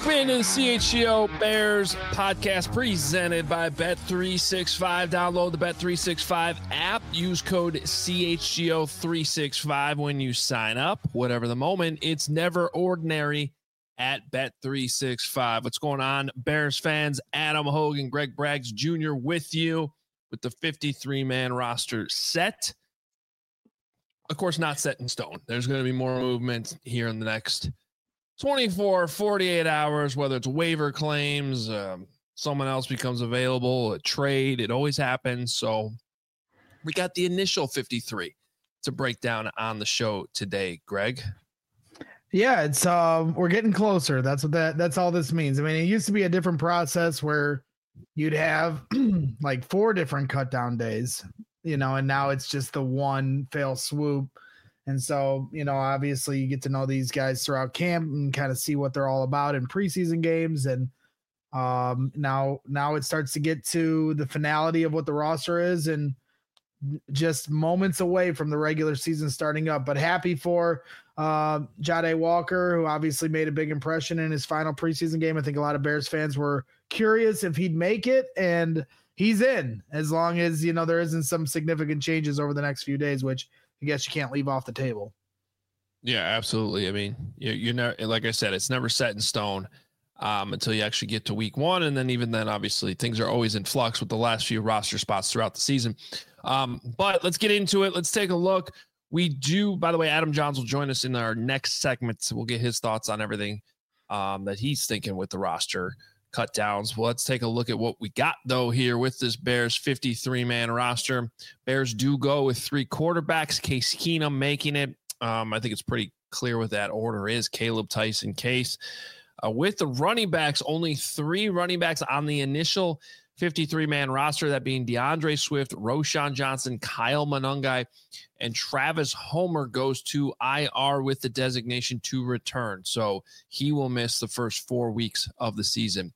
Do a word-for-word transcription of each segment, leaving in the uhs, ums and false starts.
Welcome into the C H G O Bears podcast presented by Bet three sixty-five. Download the Bet three sixty-five app. Use code C H G O three sixty-five when you sign up. Whatever the moment, it's never ordinary at Bet three sixty-five. What's going on, Bears fans? Adam Hogan, Greg Braggs Junior with you with the fifty-three man roster set. Of course, not set in stone. There's going to be more movement here in the next twenty-four, forty-eight hours, whether it's waiver claims, um, someone else becomes available, a trade. It always happens. So we got the initial fifty-three to break down on the show today, Greg. Yeah, it's um, we're getting closer. That's what that that's all this means. I mean, it used to be a different process where you'd have like four different cut down days, you know, and now it's just the one fail swoop. And so, you know, obviously you get to know these guys throughout camp and kind of see what they're all about in preseason games. And um, now, now it starts to get to the finality of what the roster is and just moments away from the regular season starting up. But happy for uh, Jahdae Walker, who obviously made a big impression in his final preseason game. I think a lot of Bears fans were curious if he'd make it, and he's in, as long as, you know, there isn't some significant changes over the next few days, which I guess you can't leave off the table. Yeah, absolutely. I mean, you're, you're never, like I said, it's never set in stone um, until you actually get to week one. And then even then, obviously, things are always in flux with the last few roster spots throughout the season. Um, but let's get into it. Let's take a look. We do, by the way, Adam Johns will join us in our next segment. So we'll get his thoughts on everything um, that he's thinking with the roster cut downs. Well, let's take a look at what we got, though, here with this Bears fifty-three man roster. Bears do go with three quarterbacks, Case Keenum making it. Um, I think it's pretty clear what that order is. Caleb, Tyson, Case. Uh, with the running backs, only three running backs on the initial fifty-three man roster, that being DeAndre Swift, Roschon Johnson, Kyle Monangai, and Travis Homer goes to I R with the designation to return. So he will miss the first four weeks of the season,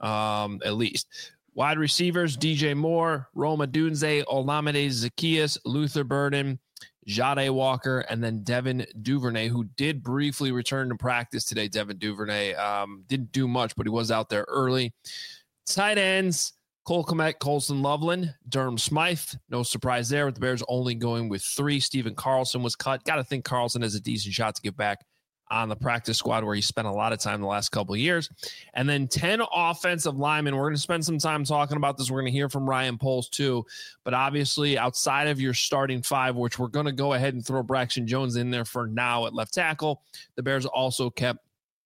um, at least. Wide receivers, D J Moore, Rome Odunze, Olamide Zaccheaus, Luther Burden, Jahdae Walker, and then Devin Duvernay, who did briefly return to practice today. Devin Duvernay um, didn't do much, but he was out there early. Tight ends, Cole Kmet, Colson Loveland, Durham Smythe. No surprise there with the Bears only going with three. Steven Carlson was cut. Got to think Carlson has a decent shot to get back on the practice squad where he spent a lot of time the last couple of years. And then ten offensive linemen. We're going to spend some time talking about this. We're going to hear from Ryan Poles too. But obviously outside of your starting five, which we're going to go ahead and throw Braxton Jones in there for now at left tackle, the Bears also kept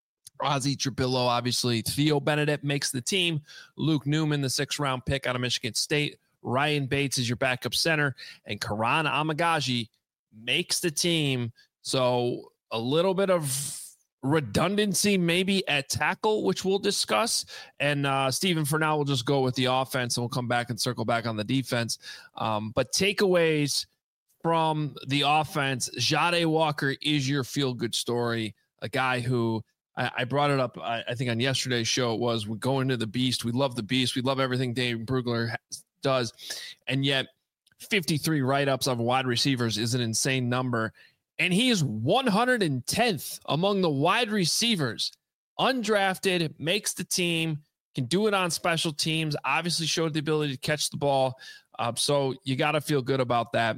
Ozzie Trapillo, obviously. Theo Benedict makes the team. Luke Newman, the sixth round pick out of Michigan State. Ryan Bates is your backup center. And Karan Amagaji makes the team. So a little bit of redundancy maybe at tackle, which we'll discuss. And uh, Stephen, for now, we'll just go with the offense and we'll come back and circle back on the defense. Um, but takeaways from the offense, Jahdae Walker is your feel-good story, a guy who I brought it up, I think, on yesterday's show. It was, we go into the beast. We love the beast. We love everything Dave Brugler does. And yet fifty-three write-ups of wide receivers is an insane number. And he is one hundred tenth among the wide receivers. Undrafted, makes the team, can do it on special teams, obviously showed the ability to catch the ball. Uh, so you got to feel good about that.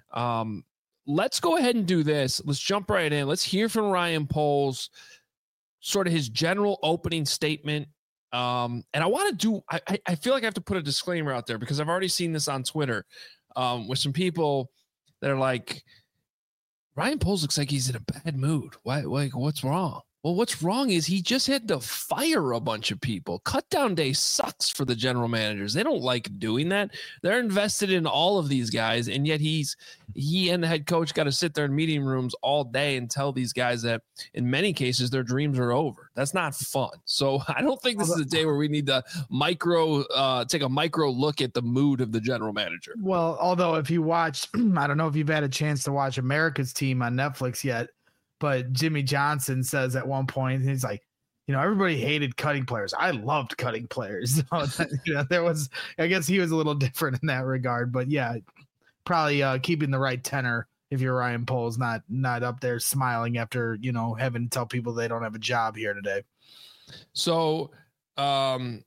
Um, let's go ahead and do this. Let's jump right in. Let's hear from Ryan Poles, sort of his general opening statement. Um, and I want to do, I, I feel like I have to put a disclaimer out there because I've already seen this on Twitter um, with some people that are like, Ryan Poles looks like he's in a bad mood. Why, like, what's wrong? Well, what's wrong is he just had to fire a bunch of people. Cut down day sucks for the general managers. They don't like doing that. They're invested in all of these guys, and yet he's he and the head coach got to sit there in meeting rooms all day and tell these guys that in many cases their dreams are over. That's not fun. So I don't think this is a day where we need to micro uh, take a micro look at the mood of the general manager. Well, although if you watched, I don't know if you've had a chance to watch America's Team on Netflix yet, but Jimmy Johnson says at one point, he's like, you know, everybody hated cutting players. I loved cutting players. So, you know, there was, I guess he was a little different in that regard, but yeah, probably uh, keeping the right tenor if you're Ryan Poles, not, not up there smiling after, you know, having to tell people they don't have a job here today. So um,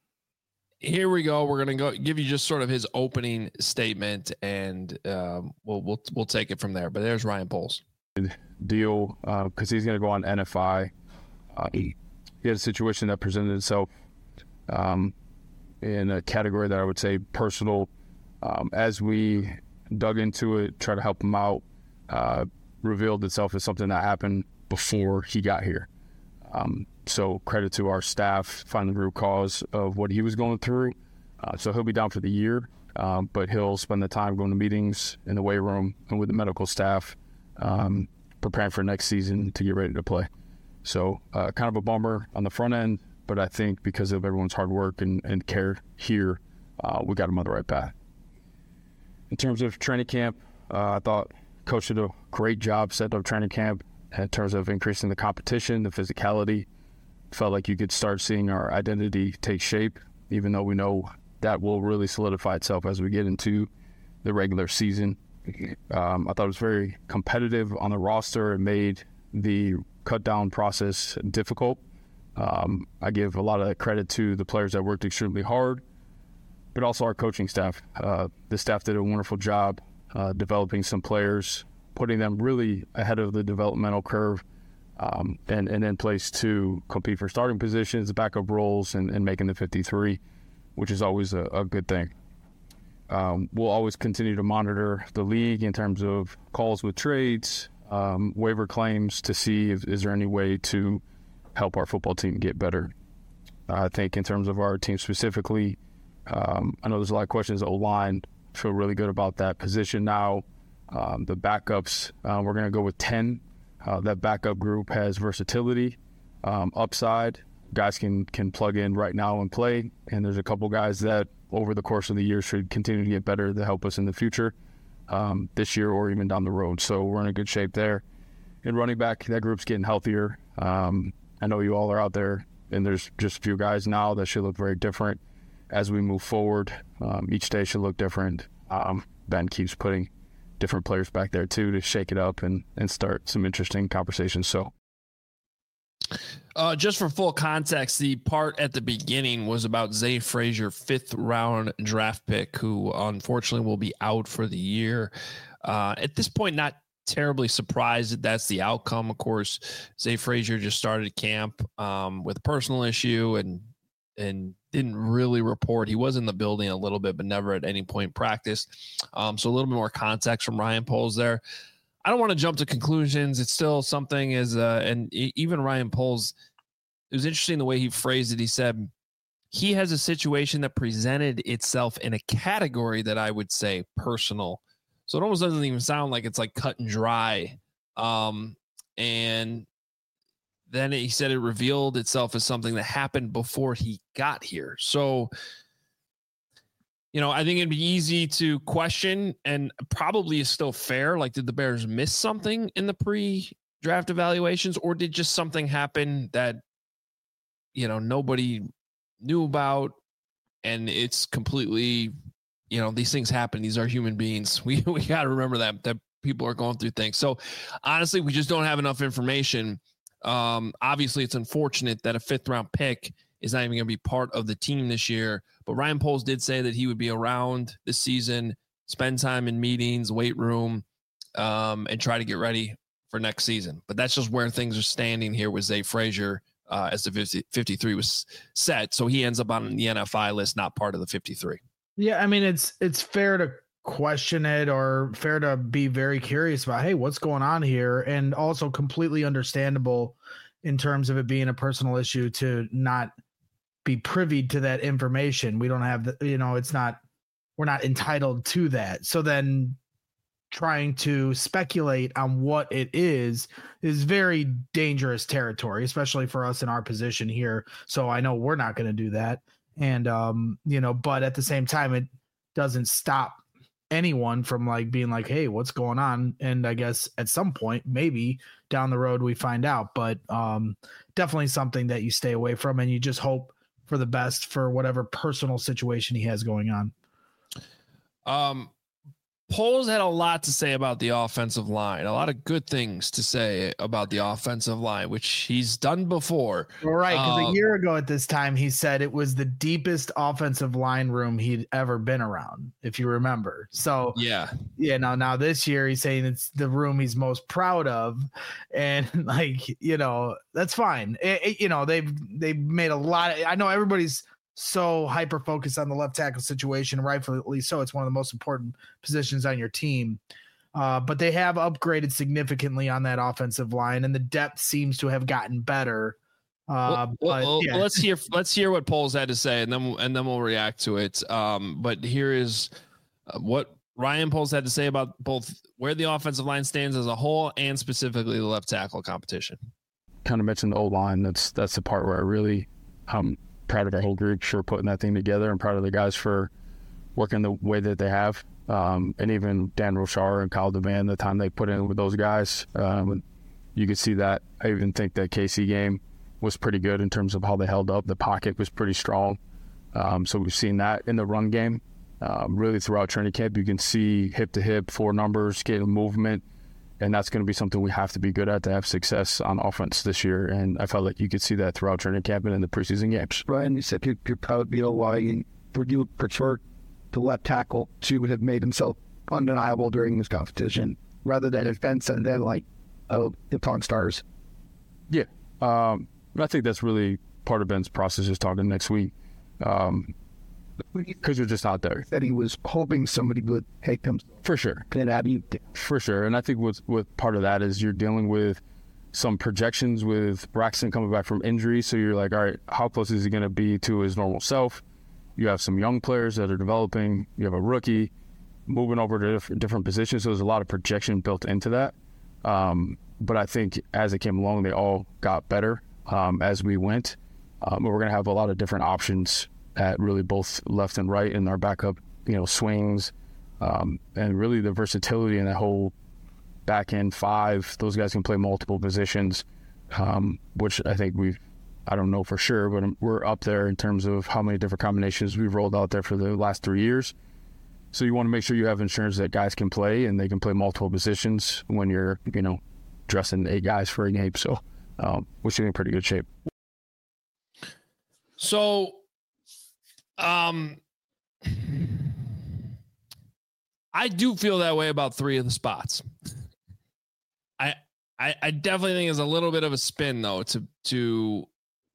here we go. We're going to go give you just sort of his opening statement, and um, we'll we'll we'll take it from there. But there's Ryan Poles. Deal because uh, he's going to go on N F I. Uh, he, he had a situation that presented itself um, in a category that I would say personal. Um, as we dug into it, try to help him out, uh, revealed itself as something that happened before he got here. Um, so credit to our staff finding the root cause of what he was going through. Uh, so he'll be down for the year, um, but he'll spend the time going to meetings in the weight room and with the medical staff, um, preparing for next season to get ready to play. So uh, kind of a bummer on the front end, but I think because of everyone's hard work and, and care here, uh, we got him on the right path. In terms of training camp, uh, I thought Coach did a great job setting up training camp in terms of increasing the competition, the physicality. Felt like you could start seeing our identity take shape, even though we know that will really solidify itself as we get into the regular season. Um, I thought it was very competitive on the roster and made the cut down process difficult. Um, I give a lot of credit to the players that worked extremely hard, but also our coaching staff. Uh, the staff did a wonderful job uh, developing some players, putting them really ahead of the developmental curve, um, and, and in place to compete for starting positions, backup roles, and, and making the fifty-three, which is always a, a good thing. Um, we'll always continue to monitor the league in terms of calls with trades, um, waiver claims to see if is there any way to help our football team get better. I think in terms of our team specifically, um, I know there's a lot of questions O-line. Feel really good about that position now. Um, the backups, uh, we're going to go with ten. Uh, that backup group has versatility, um, upside. Guys can can plug in right now and play, and there's a couple guys that over the course of the year should continue to get better to help us in the future, um, this year or even down the road. So we're in a good shape there. And running back, that group's getting healthier. Um, I know you all are out there, and there's just a few guys now that should look very different as we move forward. Um, each day should look different. Um, Ben keeps putting different players back there too to shake it up and, and start some interesting conversations. So. Uh, just for full context, the part at the beginning was about Zay Frazier, fifth round draft pick, who unfortunately will be out for the year. Uh, at this point, not terribly surprised that that's the outcome. Of course, Zay Frazier just started camp um, with a personal issue and and didn't really report. He was in the building a little bit, but never at any point practiced. Um, so a little bit more context from Ryan Poles there. I don't want to jump to conclusions. It's still something as, uh, and even Ryan Poles, it was interesting the way he phrased it. He said he has a situation that presented itself in a category that I would say personal. So it almost doesn't even sound like it's like cut and dry. Um, and then he said it revealed itself as something that happened before he got here. So, you know, I think it'd be easy to question, and probably is still fair. Like, did the Bears miss something in the pre-draft evaluations, or did just something happen that, you know, nobody knew about, and it's completely, you know, these things happen. These are human beings. We we got to remember that, that people are going through things. So, honestly, we just don't have enough information. Um, obviously, it's unfortunate that a fifth-round pick is not even going to be part of the team this year. But Ryan Poles did say that he would be around this season, spend time in meetings, weight room, um, and try to get ready for next season. But that's just where things are standing here with Zay Frazier uh, as the fifty, fifty-three was set. So he ends up on the N F I list, not part of the fifty-three. Yeah, I mean, it's it's fair to question it, or fair to be very curious about, hey, what's going on here? And also completely understandable in terms of it being a personal issue to not be privy to that information. We don't have the, you know, it's not, we're not entitled to that. So then trying to speculate on what it is is very dangerous territory, especially for us in our position here. So I know we're not going to do that. And, um, you know, but at the same time, it doesn't stop anyone from like being like, hey, what's going on? And I guess at some point, maybe down the road, we find out, but um, definitely something that you stay away from, and you just hope for the best for whatever personal situation he has going on. Um, Poles had a lot to say about the offensive line, a lot of good things to say about the offensive line, which he's done before. Well, right, because uh, a year ago at this time, he said it was the deepest offensive line room he'd ever been around, if you remember. So, yeah, yeah. Now, now this year, he's saying it's the room he's most proud of, and like you know, that's fine. It, it, you know, they've they've made a lot of. I know everybody's so hyper focused on the left tackle situation, rightfully so. It's one of the most important positions on your team. Uh, but they have upgraded significantly on that offensive line, and the depth seems to have gotten better. Uh, well, but, well, yeah. let's hear let's hear what Poles had to say, and then and then we'll react to it. Um, but here is what Ryan Poles had to say about both where the offensive line stands as a whole and specifically the left tackle competition. Kind of mentioned the O-line. That's that's the part where I really um. proud of our whole group for putting that thing together, and proud of the guys for working the way that they have. Um, and even Dan Rochar and Kyle Devan, the time they put in with those guys, um, you could see that. I even think that K C game was pretty good in terms of how they held up. The pocket was pretty strong. Um, so we've seen that in the run game. Um, really throughout training camp, you can see hip to hip, four numbers, getting movement. And that's going to be something we have to be good at to have success on offense this year. And I felt like you could see that throughout training camp and in the preseason games. Brian, you said you, you're proud of the O-line. Would you prefer the left tackle to have made himself undeniable during this competition rather than defense and then like oh, the Pawn Stars? Yeah. Um, I think that's really part of Ben's process is talking next week. Um, because you're just not there. That he was hoping somebody would take him. For sure. And have you. For sure. And I think with, with part of that is you're dealing with some projections with Braxton coming back from injury. So you're like, all right, how close is he going to be to his normal self? You have some young players that are developing. You have a rookie moving over to different, different positions. So there's a lot of projection built into that. Um, but I think as it came along, they all got better um, as we went. Um, we're going to have a lot of different options at really both left and right in our backup, you know, swings, um, and really the versatility in that whole back end five. Those guys can play multiple positions, um, which I think we've, I don't know for sure, but we're up there in terms of how many different combinations we've rolled out there for the last three years. So you want to make sure you have insurance that guys can play and they can play multiple positions when you're, you know, dressing eight guys for a game. So um, we're sitting in pretty good shape. So, Um, I do feel that way about three of the spots. I, I, I definitely think it's a little bit of a spin though to to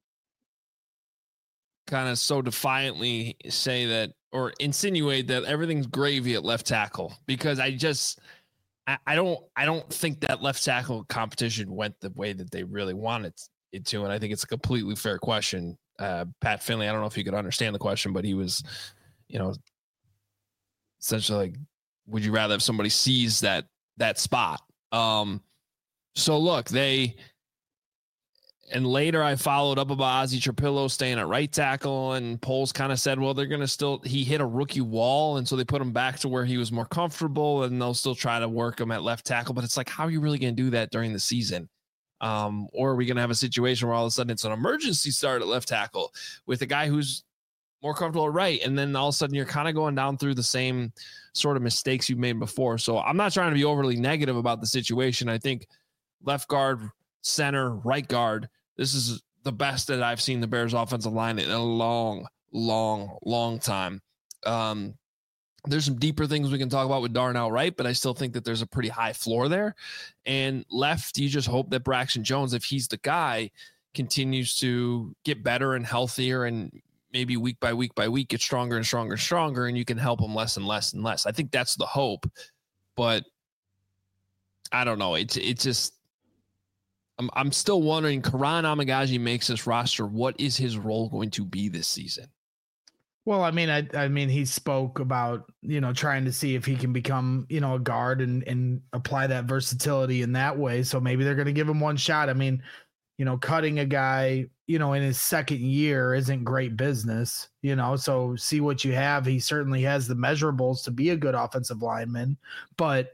kind of so defiantly say that or insinuate that everything's gravy at left tackle, because I just I, I don't I don't think that left tackle competition went the way that they really wanted it to, and I think it's a completely fair question. Uh, Pat Finley, I don't know if you could understand the question, but he was, you know, essentially like, would you rather have somebody seize that that spot? Um, so look, they, and later I followed up about Ozzie Trapillo staying at right tackle, and Poles kind of said, well, they're going to still, he hit a rookie wall, and so they put him back to where he was more comfortable, and they'll still try to work him at left tackle. But it's like, how are you really going to do that during the season? Um, or are we going to have a situation where all of a sudden it's an emergency start at left tackle with a guy who's more comfortable at right, and then all of a sudden you're kind of going down through the same sort of mistakes you've made before? So I'm not trying to be overly negative about the situation. I think left guard, center, right guard, this is the best that I've seen the Bears offensive line in a long, long, long time. Um, There's some deeper things we can talk about with Darnell Wright, but I still think that there's a pretty high floor there. And left, you just hope that Braxton Jones, if he's the guy, continues to get better and healthier, and maybe week by week by week get stronger and stronger and stronger, and you can help him less and less and less. I think that's the hope, but I don't know. It's it's just I'm I'm still wondering. Karan Amagaji makes this roster. What is his role going to be this season? Well, I mean, I, I mean, he spoke about, you know, trying to see if he can become, you know, a guard and, and apply that versatility in that way. So maybe they're going to give him one shot. I mean, you know, cutting a guy, you know, in his second year isn't great business, you know, so see what you have. He certainly has the measurables to be a good offensive lineman, but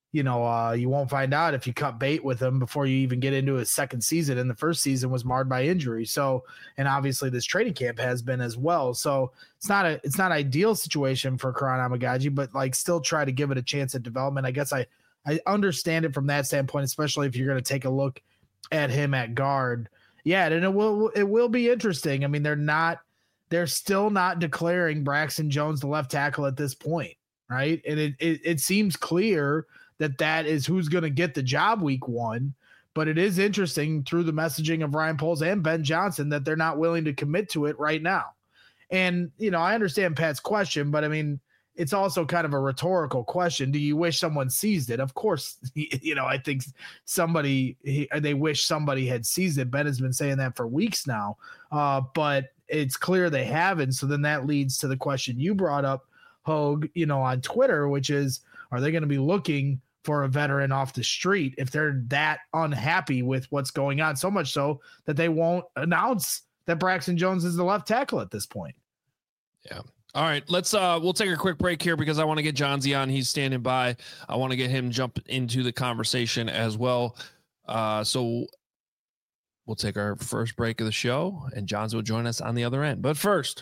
you know, uh, you won't find out if you cut bait with him before you even get into his second season. And the first season was marred by injury. So, and obviously this training camp has been as well. So it's not a, it's not an ideal situation for Karan Amagaji, but like still try to give it a chance at development. I guess I, I understand it from that standpoint, especially if you're going to take a look at him at guard. Yeah. And it will, it will be interesting. I mean, they're not, they're still not declaring Braxton Jones the left tackle at this point. Right. And it, it, it seems clear that that is who's going to get the job week one. But it is interesting through the messaging of Ryan Poles and Ben Johnson that they're not willing to commit to it right now. And, you know, I understand Pat's question, but I mean, it's also kind of a rhetorical question. Do you wish someone seized it? Of course, you know, I think somebody, they wish somebody had seized it. Ben has been saying that for weeks now, uh, but it's clear they haven't. So then that leads to the question you brought up, Hogue, you know, on Twitter, which is, are they going to be looking for a veteran off the street if they're that unhappy with what's going on, so much so that they won't announce that Braxton Jones is the left tackle at this point? Yeah. All right, let's uh we'll take a quick break here because I want to get Johnsy on. He's standing by. I want to get him jump into the conversation as well. Uh so we'll take our first break of the show and Johns will join us on the other end. But first,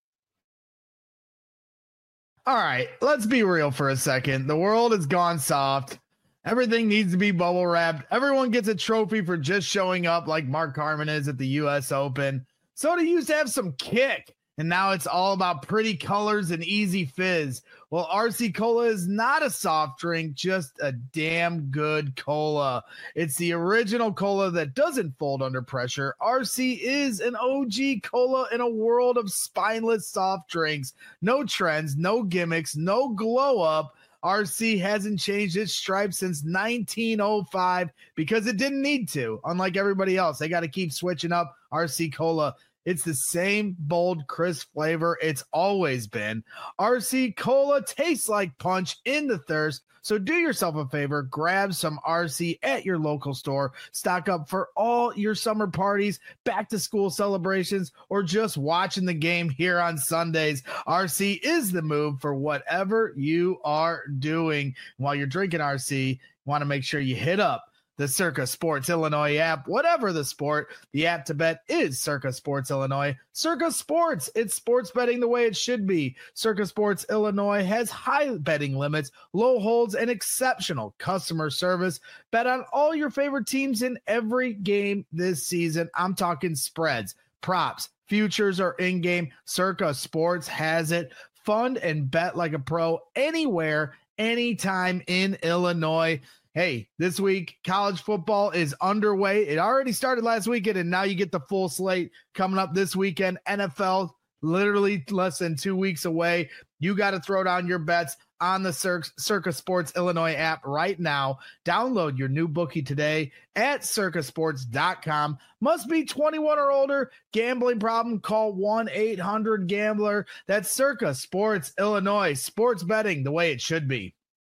all right, let's be real for a second. The world has gone soft. Everything needs to be bubble wrapped. Everyone gets a trophy for just showing up like Mark Carman is at the U S Open. Soda used to have some kick, and now it's all about pretty colors and easy fizz. Well, R C Cola is not a soft drink, just a damn good cola. It's the original cola that doesn't fold under pressure. R C is an O G cola in a world of spineless soft drinks. No trends, no gimmicks, no glow up. R C hasn't changed its stripes since nineteen oh five because it didn't need to. Unlike everybody else, they got to keep switching up R C Cola. It's the same bold, crisp flavor it's always been. R C Cola tastes like punch in the thirst. So do yourself a favor, grab some R C at your local store, stock up for all your summer parties, back to school celebrations, or just watching the game here on Sundays. R C is the move for whatever you are doing. While you're drinking R C, you want to make sure you hit up the Circa Sports Illinois app. Whatever the sport, the app to bet is Circa Sports Illinois. Circa Sports, it's sports betting the way it should be. Circa Sports Illinois has high betting limits, low holds, and exceptional customer service. Bet on all your favorite teams in every game this season. I'm talking spreads, props, futures, or in-game. Circa Sports has it. Fund and bet like a pro anywhere, anytime in Illinois. Hey, this week, college football is underway. It already started last weekend, and now you get the full slate coming up this weekend. N F L, literally less than two weeks away. You got to throw down your bets on the Cir- Circa Sports Illinois app right now. Download your new bookie today at circa sports dot com. Must be twenty-one or older. Gambling problem? Call one eight hundred gambler. That's Circa Sports Illinois. Sports betting the way it should be.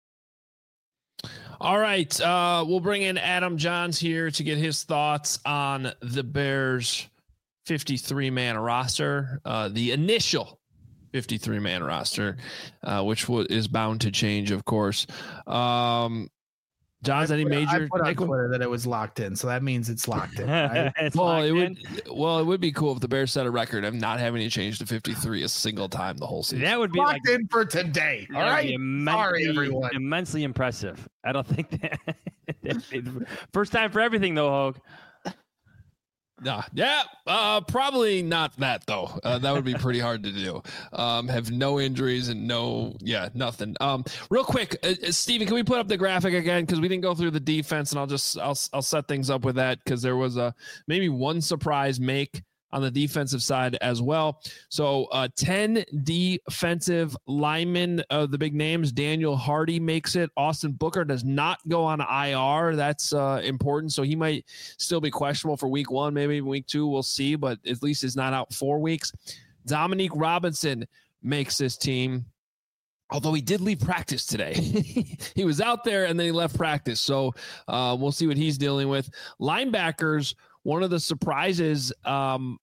All right, uh, we'll bring in Adam Johns here to get his thoughts on the Bears' fifty-three man roster, uh, the initial fifty-three man roster, uh, which w- is bound to change, of course. Um, Johns, any major? I put on Twitter that it was locked in, so that means it's locked in. Right? it's well, it in. would. Well, it would be cool if the Bears set a record of not having to change to fifty-three a single time the whole season. That would be locked like, in for today. All right, immensely, sorry everyone. Immensely impressive. I don't think that first time for everything though, Hogue. Nah, yeah, uh, probably not that though. Uh, that would be pretty hard to do. Um, have no injuries and no, yeah, nothing. Um, real quick, uh, Steven, can we put up the graphic again? Because we didn't go through the defense, and I'll just I'll I'll set things up with that because there was a maybe one surprise make on the defensive side as well. So uh, ten defensive linemen of the big names. Daniel Hardy makes it. Austin Booker does not go on I R. That's uh, important. So he might still be questionable for week one, maybe week two. We'll see, but at least he's not out four weeks. Dominique Robinson makes this team, although he did leave practice today. He was out there and then he left practice. So uh, we'll see what he's dealing with. Linebackers, one of the surprises um,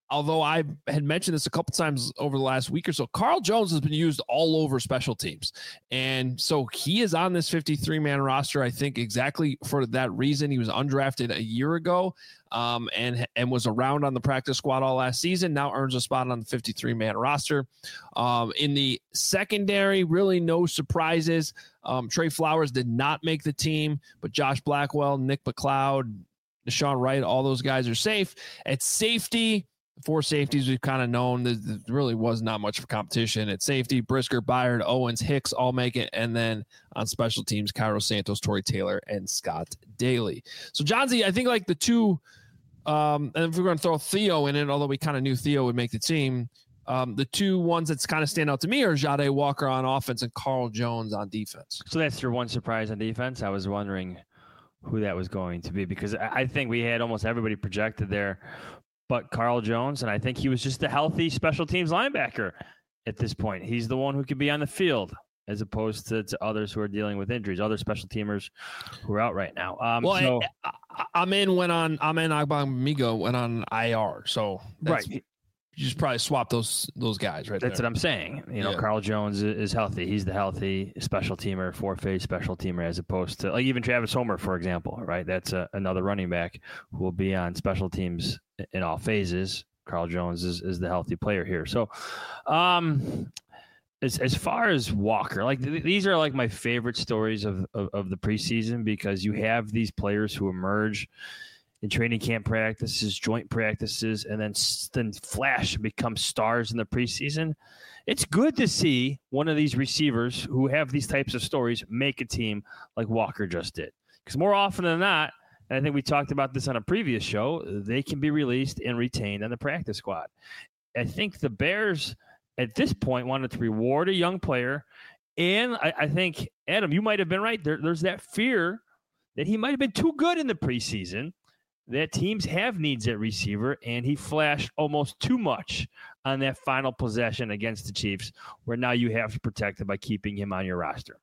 although I had mentioned this a couple times over the last week or so, Carl Jones has been used all over special teams. And so he is on this fifty-three man roster, I think exactly for that reason. He was undrafted a year ago um, and, and was around on the practice squad all last season, now earns a spot on the fifty-three man roster. Um, in the secondary, really no surprises. Um, Trey Flowers did not make the team, but Josh Blackwell, Nick McLeod, Deshaun Wright, all those guys are safe. At safety, four safeties we've kind of known. There really was not much of competition at safety. Brisker, Byard, Owens, Hicks all make it. And then on special teams, Cairo Santos, Torrey Taylor, and Scott Daly. So, John Z, I think like the two, um, and if we're going to throw Theo in it, although we kind of knew Theo would make the team, um, the two ones that's kind of stand out to me are Jahdae Walker on offense and Carl Jones on defense. So that's your one surprise on defense. I was wondering who that was going to be, because I think we had almost everybody projected there but Carl Jones, and I think he was just a healthy special teams linebacker at this point. He's the one who could be on the field as opposed to, to others who are dealing with injuries, other special teamers who are out right now. Um, well, so, I, I, I'm in went on, I'm in Agbamigo went on I R. So right. You just probably swap those those guys right That's there. what I'm saying. You know, yeah. Carl Jones is healthy. He's the healthy special teamer, four-phase special teamer, as opposed to like even Travis Homer, for example, right? That's a, another running back who will be on special teams in all phases. Carl Jones is, is the healthy player here. So um, as, as far as Walker, like th- these are like my favorite stories of, of, of the preseason, because you have these players who emerge in training camp practices, joint practices, and then then flash and become stars in the preseason. It's good to see one of these receivers who have these types of stories make a team like Walker just did. Because more often than not, and I think we talked about this on a previous show, they can be released and retained on the practice squad. I think the Bears at this point wanted to reward a young player. And I, I think, Adam, you might have been right. There, there's that fear that he might have been too good in the preseason, that teams have needs at receiver, and he flashed almost too much on that final possession against the Chiefs, where now you have to protect him by keeping him on your roster.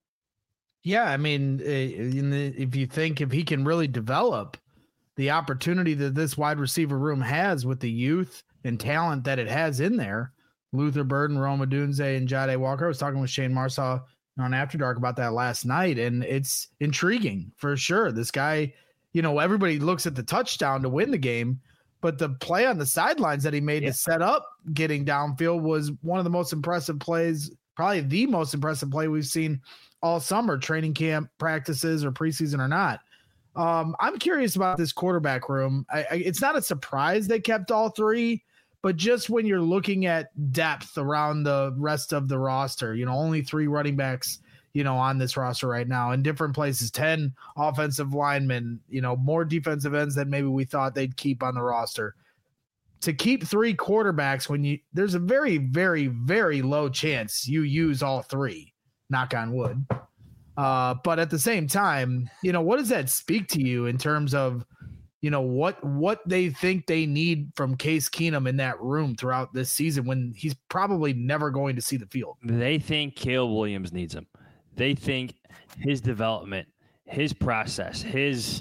Yeah, I mean, in the, if you think if he can really develop the opportunity that this wide receiver room has with the youth and talent that it has in there, Luther Burden, Rome Odunze, and Jahdae Walker. I was talking with Shane Marsaw on After Dark about that last night, and it's intriguing for sure. This guy, you know, everybody looks at the touchdown to win the game, but the play on the sidelines that he made yeah. to set up getting downfield was one of the most impressive plays, probably the most impressive play we've seen all summer, training camp, practices, or preseason or not. Um, I'm curious about this quarterback room. I, I, it's not a surprise they kept all three, but just when you're looking at depth around the rest of the roster, you know, only three running backs, you know, on this roster right now in different places, ten offensive linemen, you know, more defensive ends than maybe we thought they'd keep on the roster. To keep three quarterbacks when you, there's a very, very, very low chance you use all three, knock on wood. Uh, but at the same time, you know, what does that speak to you in terms of, you know, what, what they think they need from Case Keenum in that room throughout this season when he's probably never going to see the field? They think Caleb Williams needs him. They think his development, his process, his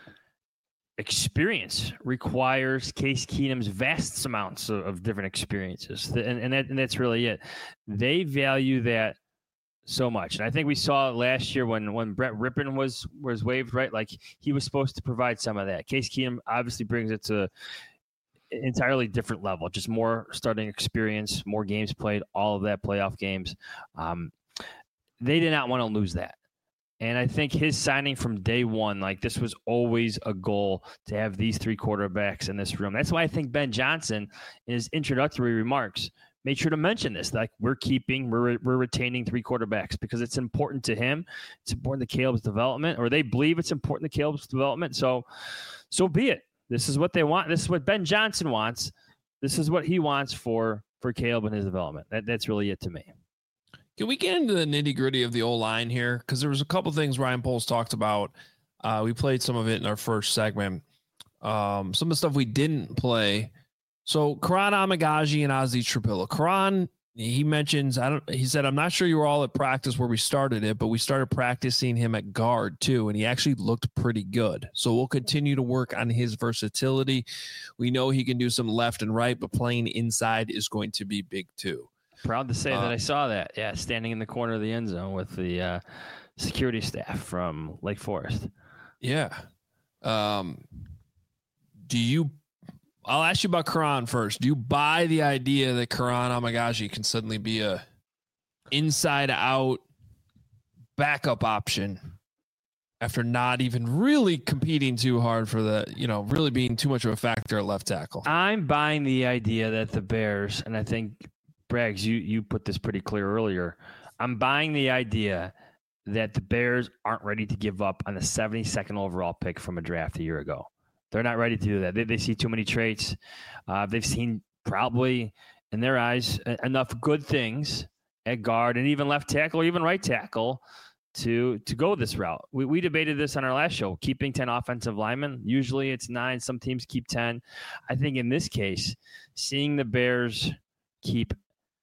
experience requires Case Keenum's vast amounts of, of different experiences. And, and, that, and that's really it. They value that so much. And I think we saw last year when, when Brett Rippon was, was waived, right? Like he was supposed to provide some of that. Case Keenum obviously brings it to an entirely different level, just more starting experience, more games played, all of that playoff games. Um, They did not want to lose that. And I think his signing from day one, like this was always a goal to have these three quarterbacks in this room. That's why I think Ben Johnson, in his introductory remarks, made sure to mention this. Like we're keeping, we're, we're retaining three quarterbacks because it's important to him. It's important to Caleb's development, or they believe it's important to Caleb's development. So, so be it. This is what they want. This is what Ben Johnson wants. This is what he wants for, for Caleb and his development. That, that's really it to me. Can we get into the nitty gritty of the O-line here? Because there was a couple things Ryan Poles talked about. Uh, we played some of it in our first segment. Um, some of the stuff we didn't play. So Karan Amagaji and Ozzie Trapilla. Karan he mentions, I don't, he said, I'm not sure you were all at practice where we started it, but we started practicing him at guard too. And he actually looked pretty good. So we'll continue to work on his versatility. We know he can do some left and right, but playing inside is going to be big too. Proud to say uh, that I saw that. Yeah. Standing in the corner of the end zone with the uh, security staff from Lake Forest. Yeah. Um, do you, I'll ask you about Karan first. Do you buy the idea that Karan Amagaji can suddenly be a inside out backup option after not even really competing too hard for the, you know, really being too much of a factor at left tackle? I'm buying the idea that the Bears, and I think Braggs, you, you put this pretty clear earlier. I'm buying the idea that the Bears aren't ready to give up on the seventy-second overall pick from a draft a year ago. They're not ready to do that. They, they see too many traits. Uh, they've seen probably, in their eyes, enough good things at guard and even left tackle or even right tackle to to go this route. We, we debated this on our last show, keeping ten offensive linemen. Usually it's nine. Some teams keep ten. I think in this case, seeing the Bears keep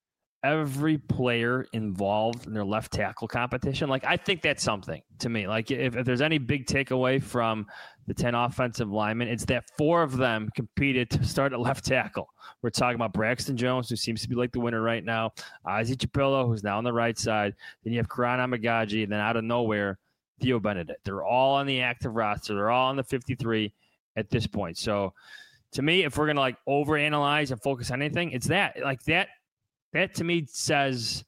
every player involved in their left tackle competition, like I think that's something to me. Like if, if there's any big takeaway from the ten offensive linemen, it's that four of them competed to start at left tackle. We're talking about Braxton Jones, who seems to be like the winner right now, Ozzie Chapillo, who's now on the right side. Then you have Karan Amagaji, and then out of nowhere, Theo Benedict. They're all on the active roster. They're all on the fifty-three at this point. So to me, if we're going to like overanalyze and focus on anything, it's that. Like that, that to me says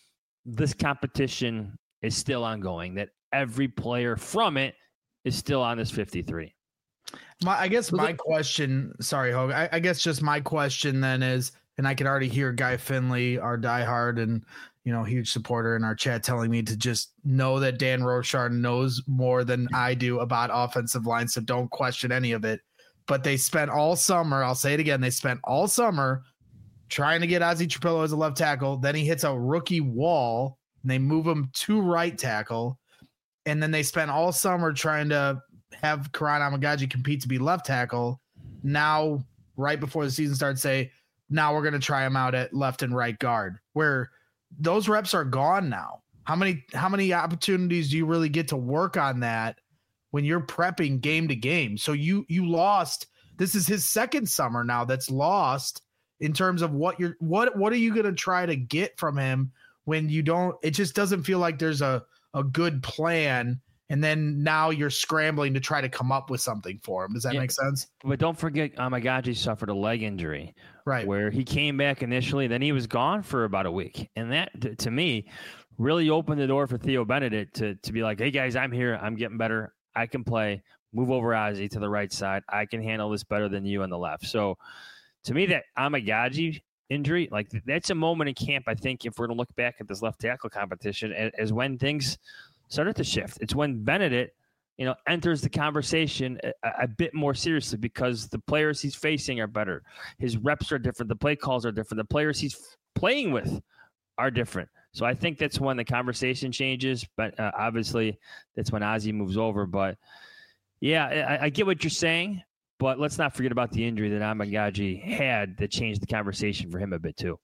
this competition is still ongoing, that every player from it is still on this fifty-three. My, I guess my question, sorry, Hogue, I, I guess just my question then is, and I can already hear Guy Finley, our diehard and, you know, huge supporter in our chat, telling me to just know that Dan Rochard knows more than I do about offensive line, so don't question any of it. But they spent all summer, I'll say it again, they spent all summer trying to get Ozzie Chapillo as a left tackle. Then he hits a rookie wall, and they move him to right tackle. And then they spent all summer trying to have Karan Amagaji compete to be left tackle. Now, right before the season starts, say, now we're going to try him out at left and right guard, where those reps are gone now. How many, how many opportunities do you really get to work on that when you're prepping game to game? So you, you lost, this is his second summer now that's lost in terms of what you're, what, what are you going to try to get from him when you don't, it just doesn't feel like there's a, a good plan. And then now you're scrambling to try to come up with something for him. Does that yeah, make sense? But don't forget, Amagaji suffered a leg injury, right? Where he came back initially, then he was gone for about a week. And that, to, to me, really opened the door for Theo Benedict to, to be like, hey, guys, I'm here. I'm getting better. I can play. Move over Ozzie to the right side. I can handle this better than you on the left. So to me, that Amagaji injury, like that's a moment in camp, I think, if we're going to look back at this left tackle competition, as when things started to shift. It's when Benedict, you know, enters the conversation a, a bit more seriously because the players he's facing are better. His reps are different. The play calls are different. The players he's playing with are different. So I think that's when the conversation changes. But uh, obviously, that's when Ozzie moves over. But yeah, I, I get what you're saying. But let's not forget about the injury that Amagaji had that changed the conversation for him a bit too.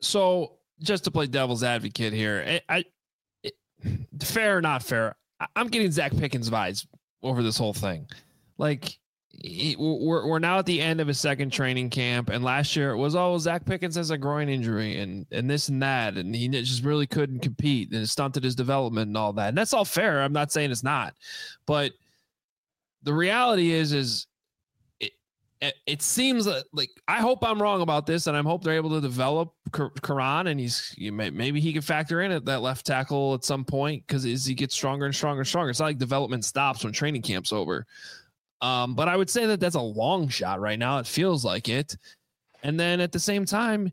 So just to play devil's advocate here, I. I fair or not fair, I'm getting Zach Pickens vibes over this whole thing. Like he, we're we're now at the end of his second training camp, and last year it was oh Zach Pickens has a groin injury and and this and that, and he just really couldn't compete and it stunted his development and all that. And that's all fair. I'm not saying it's not, but the reality is is it it, it seems like, like I hope I'm wrong about this, and I hope they're able to develop Karan, and he's you may, maybe he can factor in at that left tackle at some point because as he gets stronger and stronger and stronger, it's not like development stops when training camp's over. Um, but I would say that that's a long shot right now. It feels like it. And then at the same time,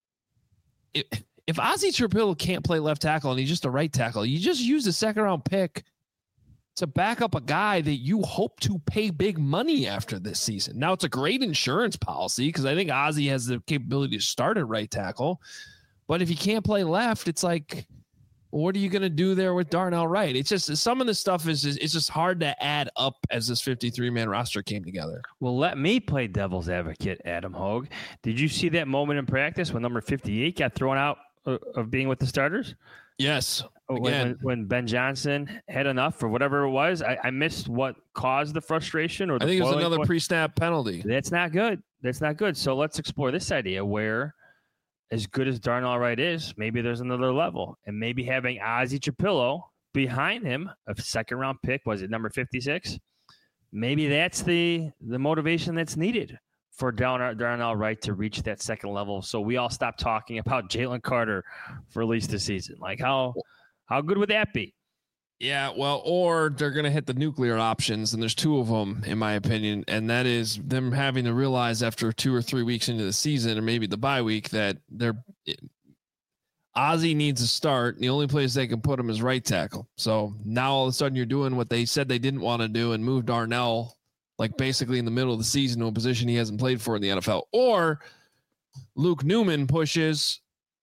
if, if Ozzie Chapillo can't play left tackle and he's just a right tackle, you just use a second round pick to back up a guy that you hope to pay big money after this season. Now, it's a great insurance policy because I think Ozzie has the capability to start at right tackle. But if he can't play left, it's like, what are you going to do there with Darnell Wright? It's just some of this stuff is just, it's just hard to add up as this fifty-three man roster came together. Well, let me play devil's advocate, Adam Hogue. Did you see that moment in practice when number fifty-eight got thrown out of, of being with the starters? Yes. When, Again. when, when Ben Johnson had enough for whatever it was, I, I missed what caused the frustration. Or the I think it was boiling another point. pre-snap penalty. That's not good. That's not good. So let's explore this idea where, as good as Darnell Wright is, maybe there's another level. And maybe having Ozzie Chapillo behind him, a second round pick, was it number fifty-six? Maybe that's the the motivation that's needed for Darnell, Darnell Wright to reach that second level. So we all stop talking about Jalen Carter for at least a season. Like how how good would that be? Yeah, well, or they're going to hit the nuclear options, and there's two of them, in my opinion, and that is them having to realize after two or three weeks into the season, or maybe the bye week, that they're Ozzie needs a start. And the only place they can put him is right tackle. So now all of a sudden you're doing what they said they didn't want to do and move Darnell, like basically in the middle of the season, to a position he hasn't played for in the N F L. Or Luke Newman pushes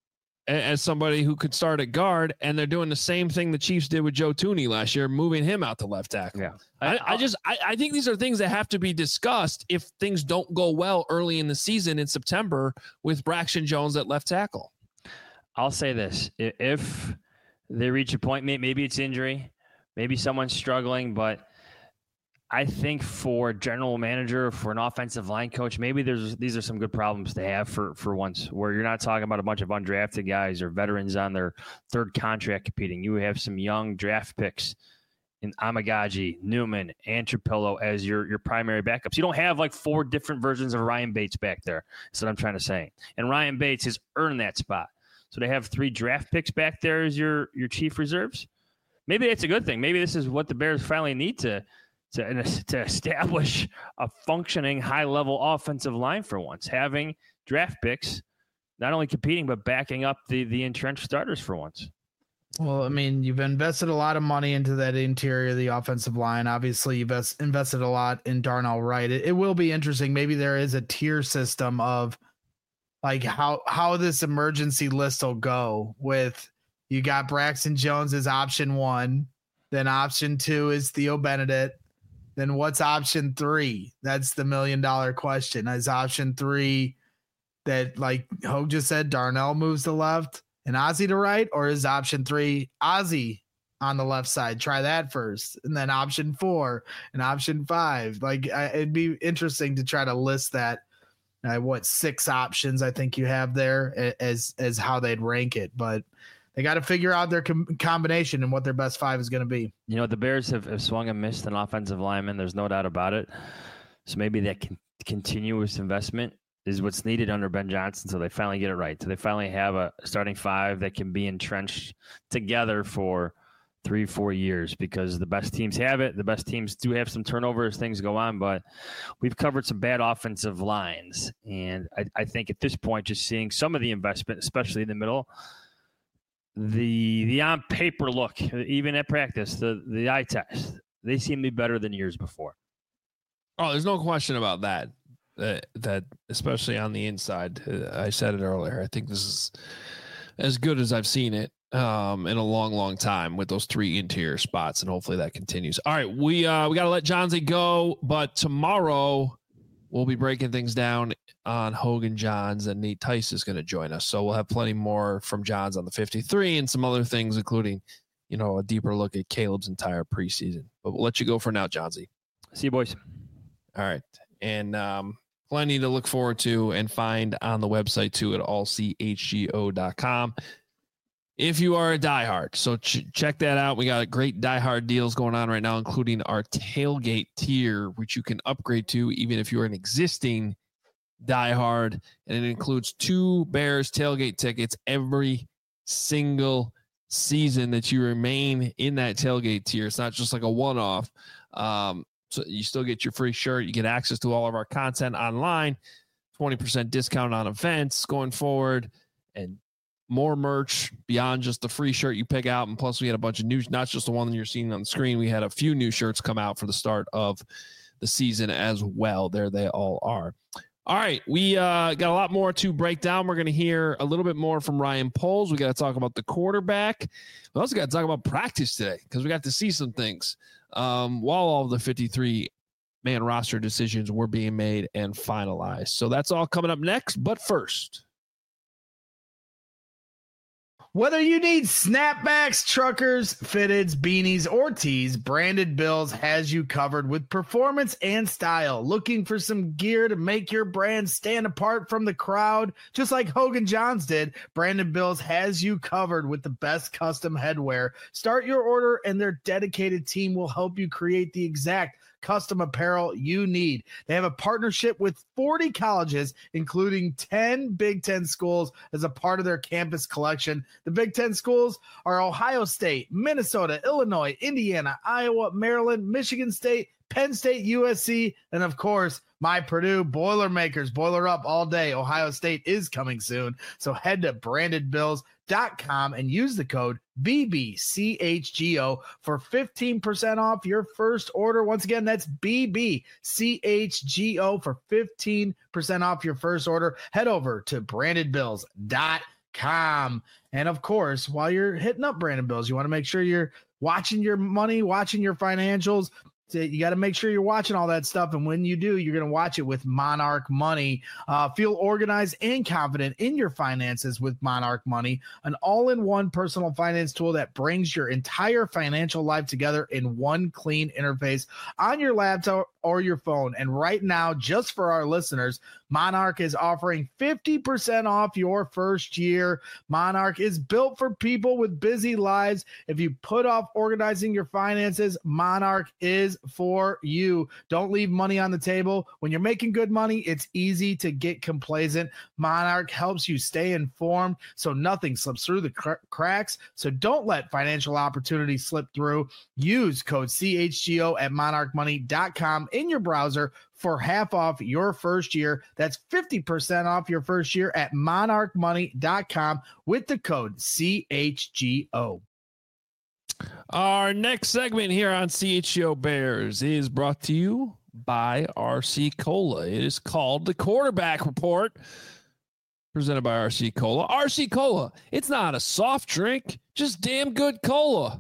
as somebody who could start at guard, and they're doing the same thing the Chiefs did with Joe Thuney last year, moving him out to left tackle. Yeah. I, I just I, I think these are things that have to be discussed if things don't go well early in the season in September with Braxton Jones at left tackle. I'll say this. If they reach a point, maybe it's injury, maybe someone's struggling, but I think for a general manager, for an offensive line coach, maybe there's these are some good problems to have for, for once, where you're not talking about a bunch of undrafted guys or veterans on their third contract competing. You have some young draft picks in Amagaji, Newman, and Trapillo as your, your primary backups. You don't have like four different versions of Ryan Bates back there. That's what I'm trying to say. And Ryan Bates has earned that spot. So they have three draft picks back there as your, your chief reserves. Maybe that's a good thing. Maybe this is what the Bears finally need to To, to establish a functioning high-level offensive line for once, having draft picks not only competing but backing up the the entrenched starters for once. Well, I mean, you've invested a lot of money into that interior of the offensive line. Obviously, you've invested a lot in Darnell Wright. It, it will be interesting. Maybe there is a tier system of like how how this emergency list will go with you got Braxton Jones as option one, then option two is Theo Benedict. Then what's option three? That's the million dollar question. Is option three that, like Hogue just said, Darnell moves to left and Ozzie to right? Or is option three Ozzie on the left side? Try that first. And then option four and option five. Like I, it'd be interesting to try to list that. Uh, what six options I think you have there as as how they'd rank it. But they got to figure out their com- combination and what their best five is going to be. You know, the Bears have, have swung and missed an offensive lineman. There's no doubt about it. So maybe that con- continuous investment is what's needed under Ben Johnson. So they finally get it right. So they finally have a starting five that can be entrenched together for three, four years, because the best teams have it. The best teams do have some turnover as things go on, but we've covered some bad offensive lines. And I, I think at this point, just seeing some of the investment, especially in the middle, The the on paper look, even at practice, the, the eye test, they seem to be better than years before. Oh, there's no question about that. That, that especially on the inside, uh, I said it earlier. I think this is as good as I've seen it um, in a long, long time with those three interior spots, and hopefully that continues. All right, we uh, we got to let Johnsy go, but tomorrow we'll be breaking things down on Hogan Johns, and Nate Tice is going to join us. So we'll have plenty more from Johns on the fifty-three and some other things, including, you know, a deeper look at Caleb's entire preseason. But we'll let you go for now, Johnsy. See you, boys. All right. And um, plenty to look forward to and find on the website, too, at all c h g o dot com. If you are a diehard, so ch- check that out. We got great diehard deals going on right now, including our tailgate tier, which you can upgrade to even if you're an existing diehard, and it includes two Bears tailgate tickets every single season that you remain in that tailgate tier. It's not just like a one-off. Um, so you still get your free shirt. You get access to all of our content online, twenty percent discount on events going forward, and more merch beyond just the free shirt you pick out. And plus we had a bunch of new, not just the one that you're seeing on the screen. We had a few new shirts come out for the start of the season as well. There they all are. All right. We uh, got a lot more to break down. We're going to hear a little bit more from Ryan Poles. We got to talk about the quarterback. We also got to talk about practice today, because we got to see some things um, while all of the fifty-three man roster decisions were being made and finalized. So that's all coming up next. But first, Whether you need snapbacks, truckers, fitteds, beanies, or tees, Branded Bills has you covered with performance and style. Looking for some gear to make your brand stand apart from the crowd, just like Hogan Johns did, Branded Bills has you covered with the best custom headwear. Start your order and their dedicated team will help you create the exact custom apparel you need. They have a partnership with forty colleges, including ten Big Ten schools as a part of their campus collection. The Big Ten schools are Ohio State, Minnesota, Illinois, Indiana, Iowa, Maryland, Michigan State, Penn State, U S C, and of course, my Purdue Boilermakers. Boiler up all day. Ohio State is coming soon. So head to branded bills dot com and use the code B B C H G O for fifteen percent off your first order. Once again, that's B B C H G O for fifteen percent off your first order. Head over to branded bills dot com. And of course, while you're hitting up Branded Bills, you want to make sure you're watching your money, watching your financials. You got to make sure you're watching all that stuff. And when you do, you're going to watch it with Monarch Money. Uh, feel organized and confident in your finances with Monarch Money, an all-in-one personal finance tool that brings your entire financial life together in one clean interface on your laptop or your phone. And right now, just for our listeners, Monarch is offering fifty percent off your first year. Monarch is built for people with busy lives. If you put off organizing your finances, Monarch is for you. Don't leave money on the table. When you're making good money, it's easy to get complacent. Monarch helps you stay informed so nothing slips through the cr- cracks. So don't let financial opportunities slip through. Use code C H G O at monarch money dot com in your browser for half off your first year. That's fifty percent off your first year at monarch money dot com with the code C H G O. Our next segment here on C H G O Bears is brought to you by R C Cola. It is called the Quarterback Report, presented by R C Cola. R C Cola, it's not a soft drink, just damn good cola.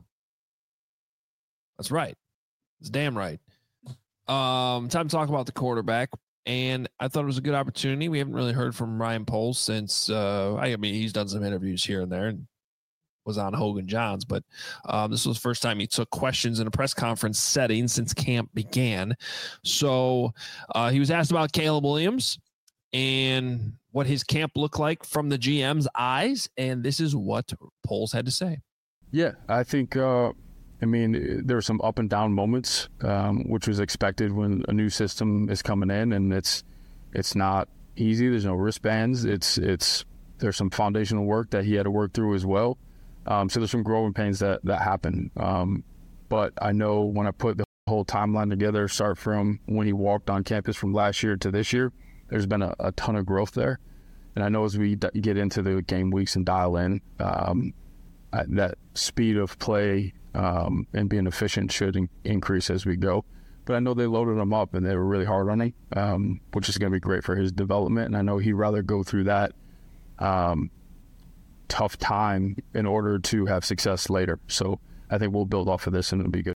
That's right. It's damn right. Um, time to talk about the quarterback, and I thought it was a good opportunity. We haven't really heard from Ryan Poles since, uh, I mean, he's done some interviews here and there and was on Hogan Johns, but um, this was the first time he took questions in a press conference setting since camp began. So uh, he was asked about Caleb Williams and what his camp looked like from the G M's eyes, and this is what Poles had to say. Yeah, I think, uh, I mean, there were some up and down moments, um, which was expected when a new system is coming in, and it's it's not easy. There's no wristbands. It's it's there's some foundational work that he had to work through as well. Um, so there's some growing pains that that happen. Um, but I know when I put the whole timeline together, start from when he walked on campus from last year to this year, there's been a, a ton of growth there. And I know as we d- get into the game weeks and dial in, um, I, that speed of play um, and being efficient should in- increase as we go. But I know they loaded him up and they were really hard on him, um, which is going to be great for his development. And I know he'd rather go through that um, tough time in order to have success later. So I think we'll build off of this and it'll be good.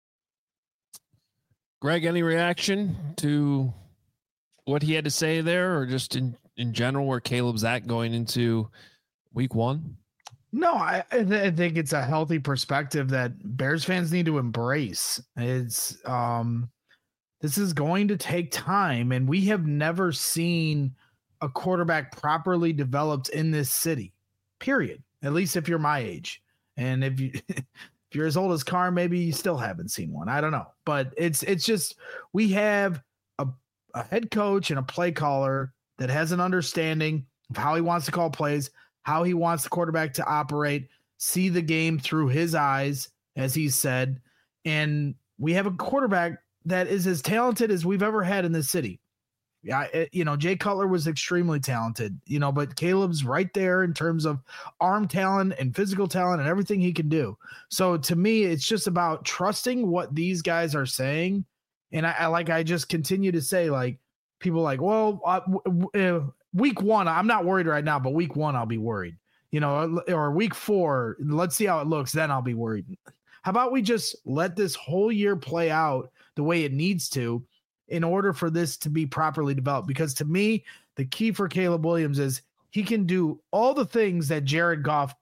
Greg, any reaction to what he had to say there, or just in, in general where Caleb's at going into week one? No, I, I, th- I think it's a healthy perspective that Bears fans need to embrace. It's um, this is going to take time, and we have never seen a quarterback properly developed in this city, period. At least if you're my age. And if you if you're as old as Carr, maybe you still haven't seen one. I don't know. But it's it's just we have a, a head coach and a play caller that has an understanding of how he wants to call plays, how he wants the quarterback to operate, see the game through his eyes, as he said. And we have a quarterback that is as talented as we've ever had in this city. Yeah, it, you know, Jay Cutler was extremely talented, you know, but Caleb's right there in terms of arm talent and physical talent and everything he can do. So to me, it's just about trusting what these guys are saying. And I, I like, I just continue to say, like, people like, well, uh, w- w- week one, I'm not worried right now, but week one, I'll be worried, you know, or week four, let's see how it looks. Then I'll be worried. How about we just let this whole year play out the way it needs to, in order for this to be properly developed? Because to me, the key for Caleb Williams is he can do all the things that Jared Goff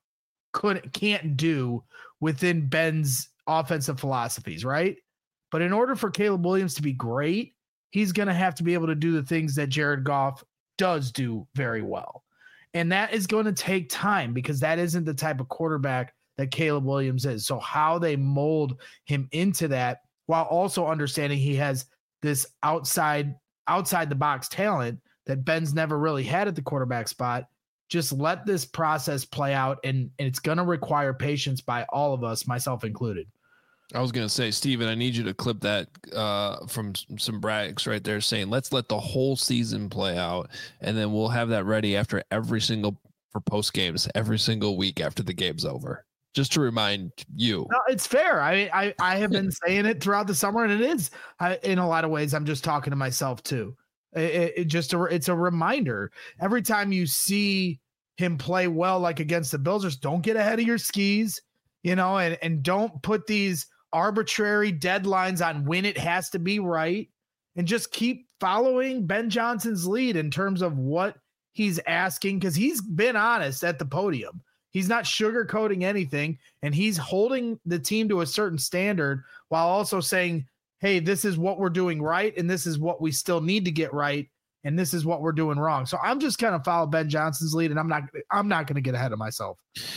couldn't can't do within Ben's offensive philosophies, right? But in order for Caleb Williams to be great, he's going to have to be able to do the things that Jared Goff does do very well. And that is going to take time because that isn't the type of quarterback that Caleb Williams is. So how they mold him into that while also understanding he has this outside outside the box talent that Ben's never really had at the quarterback spot. Just let this process play out, and, and it's going to require patience by all of us, myself included. I was going to say, Steven, I need you to clip that uh, from some brags right there saying, let's let the whole season play out, and then we'll have that ready after every single for post games, every single week after the game's over. Just to remind you. No, it's fair. I, I, I have been saying it throughout the summer, and it is I, in a lot of ways. I'm just talking to myself too. It, it just a, it's a reminder. Every time you see him play well, like against the Bills, just don't get ahead of your skis, you know, and, and don't put these arbitrary deadlines on when it has to be right, and just keep following Ben Johnson's lead in terms of what he's asking, because he's been honest at the podium. He's not sugarcoating anything, and he's holding the team to a certain standard while also saying, hey, this is what we're doing right, and this is what we still need to get right, and this is what we're doing wrong. So I'm just kind of follow Ben Johnson's lead, and I'm not I'm not going to get ahead of myself.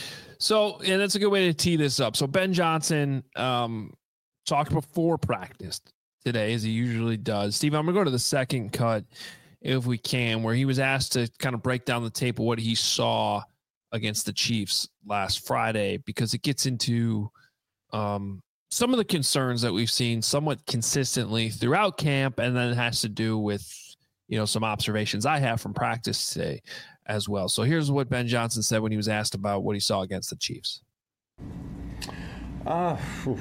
So, and that's a good way to tee this up. So Ben Johnson um, talked before practice today, as he usually does. Steve, I'm going to go to the second cut, if we can, where he was asked to kind of break down the tape of what he saw against the Chiefs last Friday, because it gets into um, some of the concerns that we've seen somewhat consistently throughout camp, and then it has to do with, you know, some observations I have from practice today as well. So here's what Ben Johnson said when he was asked about what he saw against the Chiefs. Uh,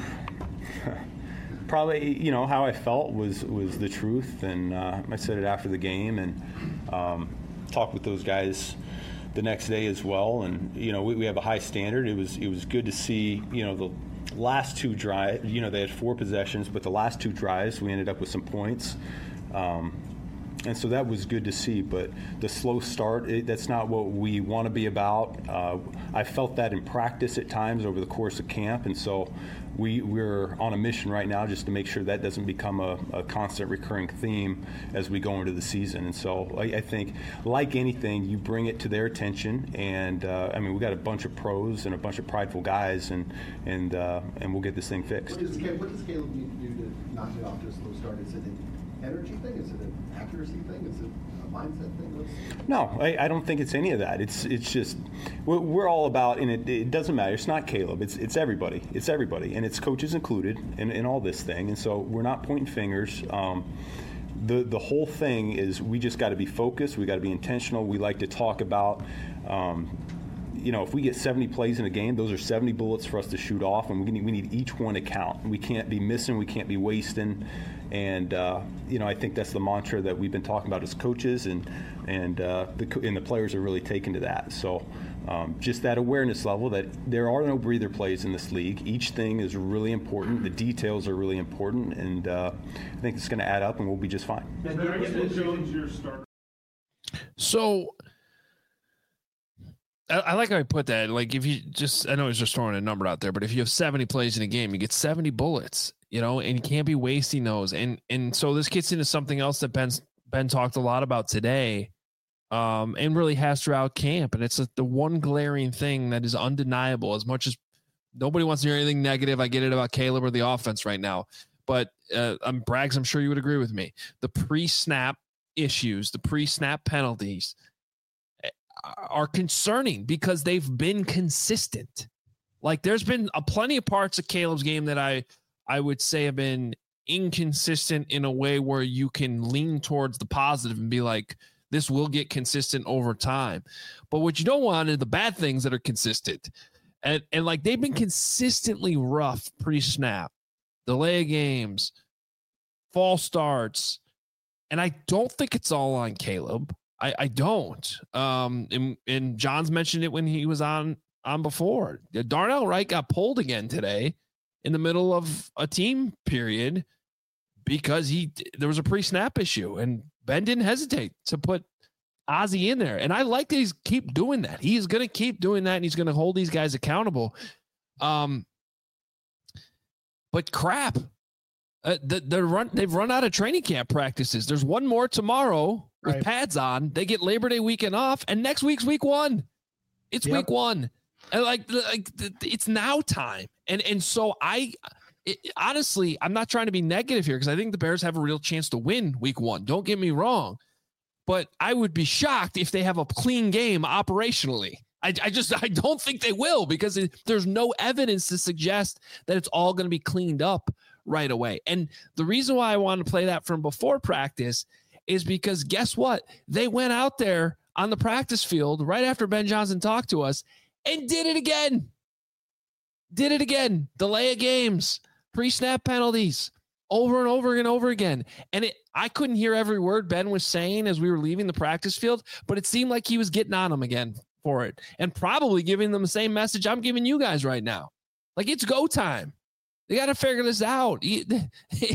probably, you know, how I felt was, was the truth. And uh, I said it after the game, and um, talked with those guys the next day as well. And, you know, we, we have a high standard. It was, it was good to see, you know, the last two drives, you know, they had four possessions, but the last two drives, we ended up with some points. Um, And so that was good to see, but the slow start, it, that's not what we want to be about. Uh, I felt that in practice at times over the course of camp, and so we, we're on a mission right now just to make sure that doesn't become a, a constant recurring theme as we go into the season. And so I, I think, like anything, you bring it to their attention, and uh, I mean, we got a bunch of pros and a bunch of prideful guys, and and uh, and we'll get this thing fixed. What does, what does Caleb need to do to knock it off to a slow start? Is it an energy thing? Is it an accuracy thing? Is it a mindset thing? What's... No, I, I don't think it's any of that. It's it's just we're, we're all about, and it, it doesn't matter. It's not Caleb. It's it's everybody. It's everybody, and it's coaches included in, in all this thing. And so we're not pointing fingers. Um, the the whole thing is we just got to be focused. We got to be intentional. We like to talk about. Um, You know, if we get seventy plays in a game, those are seventy bullets for us to shoot off, and we need, we need each one to count. We can't be missing, we can't be wasting, and uh, you know, I think that's the mantra that we've been talking about as coaches, and and uh, the and the players are really taken to that. So um, just that awareness level that there are no breather plays in this league. Each thing is really important. The details are really important, and uh, I think it's going to add up, and we'll be just fine. So. I like how I put that. Like, if you just, I know he's just throwing a number out there, but if you have seventy plays in a game, you get seventy bullets, you know, and you can't be wasting those. And and so this gets into something else that Ben's, Ben talked a lot about today, um, and really has throughout camp. And it's a, the one glaring thing that is undeniable. As much as nobody wants to hear anything negative, I get it about Caleb or the offense right now. But uh, I'm Braggs, I'm sure you would agree with me. The pre-snap issues, the pre-snap penalties, are concerning because they've been consistent. Like, there's been a plenty of parts of Caleb's game that I, I would say have been inconsistent in a way where you can lean towards the positive and be like, this will get consistent over time. But what you don't want are the bad things that are consistent. And, and like, they've been consistently rough pre-snap, delay games, false starts. And I don't think it's all on Caleb. I, I don't. Um, and, and John's mentioned it when he was on on before. Darnell Wright got pulled again today in the middle of a team period because he there was a pre-snap issue, and Ben didn't hesitate to put Ozzie in there. And I like that he's keep doing that. He's going to keep doing that, and he's going to hold these guys accountable. Um, but crap, uh, the, the run, they've run out of training camp practices. There's one more tomorrow with right. pads on. They get Labor Day weekend off, and next week's week one. It's yep. week one. And like, like it's now time. And, and so I, it, honestly, I'm not trying to be negative here because I think the Bears have a real chance to win week one. Don't get me wrong. But I would be shocked if they have a clean game operationally. I, I just I don't think they will because it, there's no evidence to suggest that it's all going to be cleaned up right away. And the reason why I want to play that from before practice is because guess what? They went out there on the practice field right after Ben Johnson talked to us and did it again. Did it again. Delay of games, pre-snap penalties. Over and over and over again. And it, I couldn't hear every word Ben was saying as we were leaving the practice field, but it seemed like he was getting on them again for it and probably giving them the same message I'm giving you guys right now. Like, it's go time. They got to figure this out. I,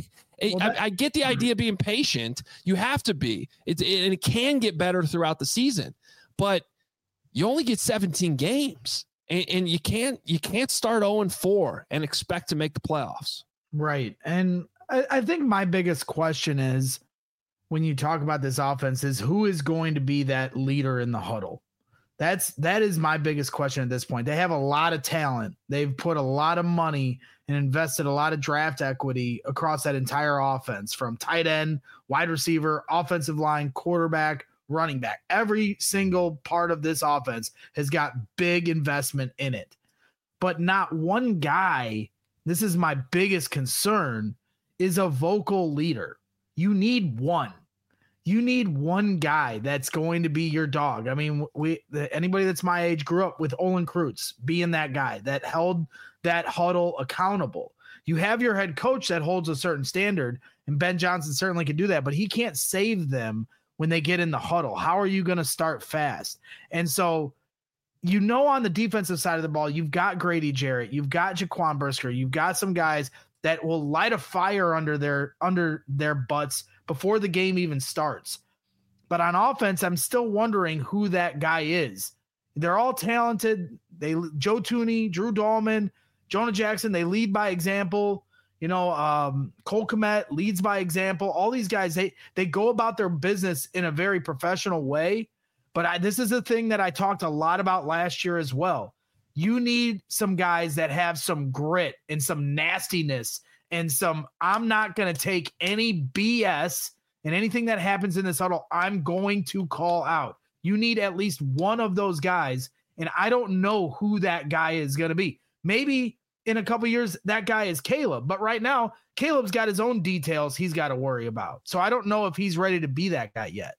I get the idea of being patient. You have to be. It, it, and it can get better throughout the season, but you only get seventeen games, and, and you can't you can't start oh and four and expect to make the playoffs. Right. And I, I think my biggest question is when you talk about this offense is who is going to be that leader in the huddle? That's, that is my biggest question at this point. They have a lot of talent. They've put a lot of money and invested a lot of draft equity across that entire offense, from tight end, wide receiver, offensive line, quarterback, running back. Every single part of this offense has got big investment in it, but not one guy, this is my biggest concern, is a vocal leader. You need one. You need one guy that's going to be your dog. I mean, we anybody that's my age grew up with Olin Kreutz being that guy that held that huddle accountable. You have your head coach that holds a certain standard, and Ben Johnson certainly can do that, but he can't save them when they get in the huddle. How are you going to start fast? And so, you know, on the defensive side of the ball, you've got Grady Jarrett, you've got Jaquan Brisker, you've got some guys that will light a fire under their under their butts before the game even starts. But on offense, I'm still wondering who that guy is. They're all talented. They Joe Thuney, Drew Dahlman, Jonah Jackson, they lead by example. You know, um, Cole Kmet leads by example. All these guys, they they go about their business in a very professional way. But I, this is a thing that I talked a lot about last year as well. You need some guys that have some grit and some nastiness and some, I'm not going to take any B S, and anything that happens in this huddle, I'm going to call out. You need at least one of those guys, and I don't know who that guy is going to be. Maybe in a couple years, that guy is Caleb, but right now, Caleb's got his own details he's got to worry about. So I don't know if he's ready to be that guy yet.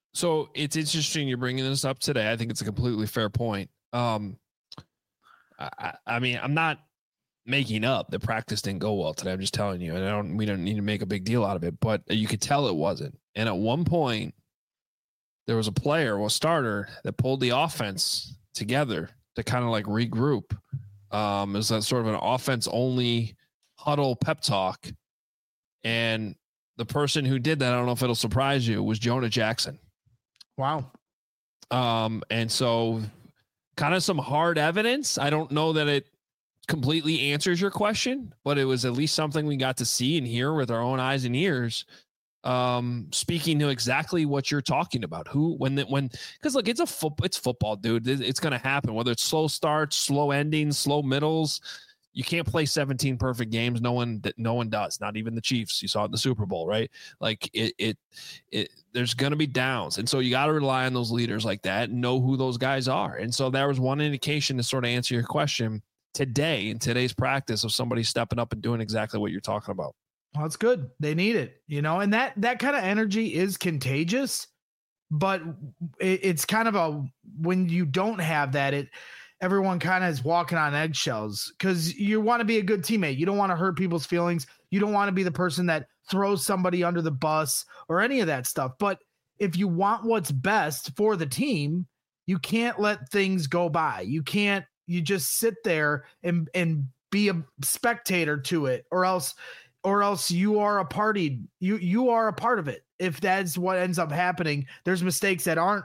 So it's interesting you're bringing this up today. I think it's a completely fair point. Um, I, I mean, I'm not making up that practice didn't go well today. I'm just telling you, and I don't, we don't need to make a big deal out of it, but you could tell it wasn't. And at one point there was a player, well, starter that pulled the offense together to kind of like regroup. Um, it was that sort of an offense only huddle pep talk. And the person who did that, I don't know if it'll surprise you, was Jonah Jackson. Wow. Um, and so kind of some hard evidence. I don't know that it completely answers your question, but it was at least something we got to see and hear with our own eyes and ears. Um, speaking to exactly what you're talking about, who, when, the, when, cause look, it's a foot, it's football, dude. It's going to happen, whether it's slow starts, slow endings, slow middles. You can't play seventeen perfect games. No one that no one does, not even the Chiefs. You saw it in the Super Bowl, right? Like it, it, it there's going to be downs. And so you got to rely on those leaders like that and know who those guys are. And so there was one indication to sort of answer your question today in today's practice of somebody stepping up and doing exactly what you're talking about. Well, it's good. They need it, you know, and that, that kind of energy is contagious, but it, it's kind of a, when you don't have that, it, everyone kind of is walking on eggshells because you want to be a good teammate. You don't want to hurt people's feelings. You don't want to be the person that throws somebody under the bus or any of that stuff. But if you want what's best for the team, you can't let things go by. You can't, you just sit there and, and be a spectator to it, or else, or else you are a party. You, you are a part of it. If that's what ends up happening, there's mistakes that aren't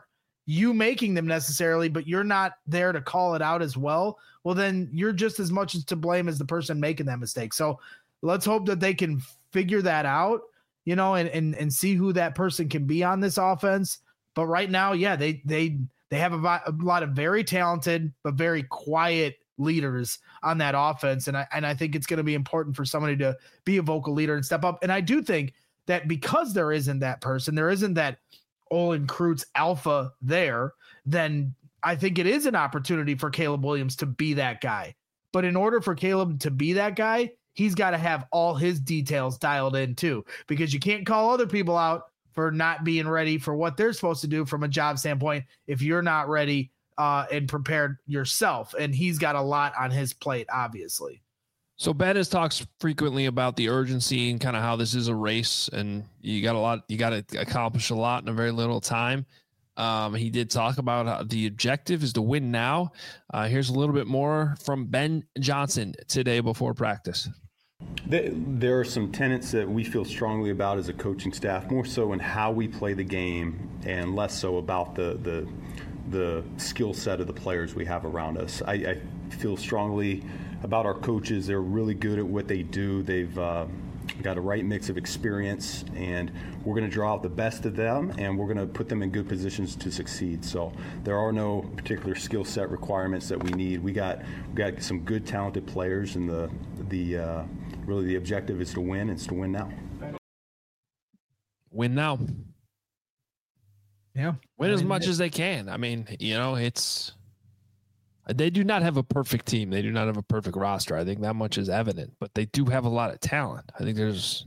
you making them necessarily, but you're not there to call it out as well, well, then you're just as much to blame as the person making that mistake. So let's hope that they can figure that out, you know, and, and, and see who that person can be on this offense. But right now, yeah, they, they, they have a, a lot of very talented, but very quiet leaders on that offense. And I, and I think it's going to be important for somebody to be a vocal leader and step up. And I do think that because there isn't that person, there isn't that Olin Kreutz alpha there, then I think it is an opportunity for Caleb Williams to be that guy. But in order for Caleb to be that guy, he's got to have all his details dialed in too, because you can't call other people out for not being ready for what they're supposed to do from a job standpoint if you're not ready uh, and prepared yourself. And he's got a lot on his plate, obviously. So Ben has talked frequently about the urgency and kind of how this is a race and you got a lot, you got to accomplish a lot in a very little time. Um, he did talk about how the objective is to win now. Uh, here's a little bit more from Ben Johnson today before practice. There are some tenets that we feel strongly about as a coaching staff, more so in how we play the game and less so about the the, the skill set of the players we have around us. I, I feel strongly about our coaches. They're really good at what they do. They've uh, got a right mix of experience, and we're going to draw out the best of them, and we're going to put them in good positions to succeed. So there are no particular skill set requirements that we need. We got we got some good, talented players, and the the uh, really the objective is to win. It's to win now. Win now. Yeah, win as much as they can. I mean, you know, it's. They do not have a perfect team. They do not have a perfect roster. I think that much is evident, but they do have a lot of talent. I think there's,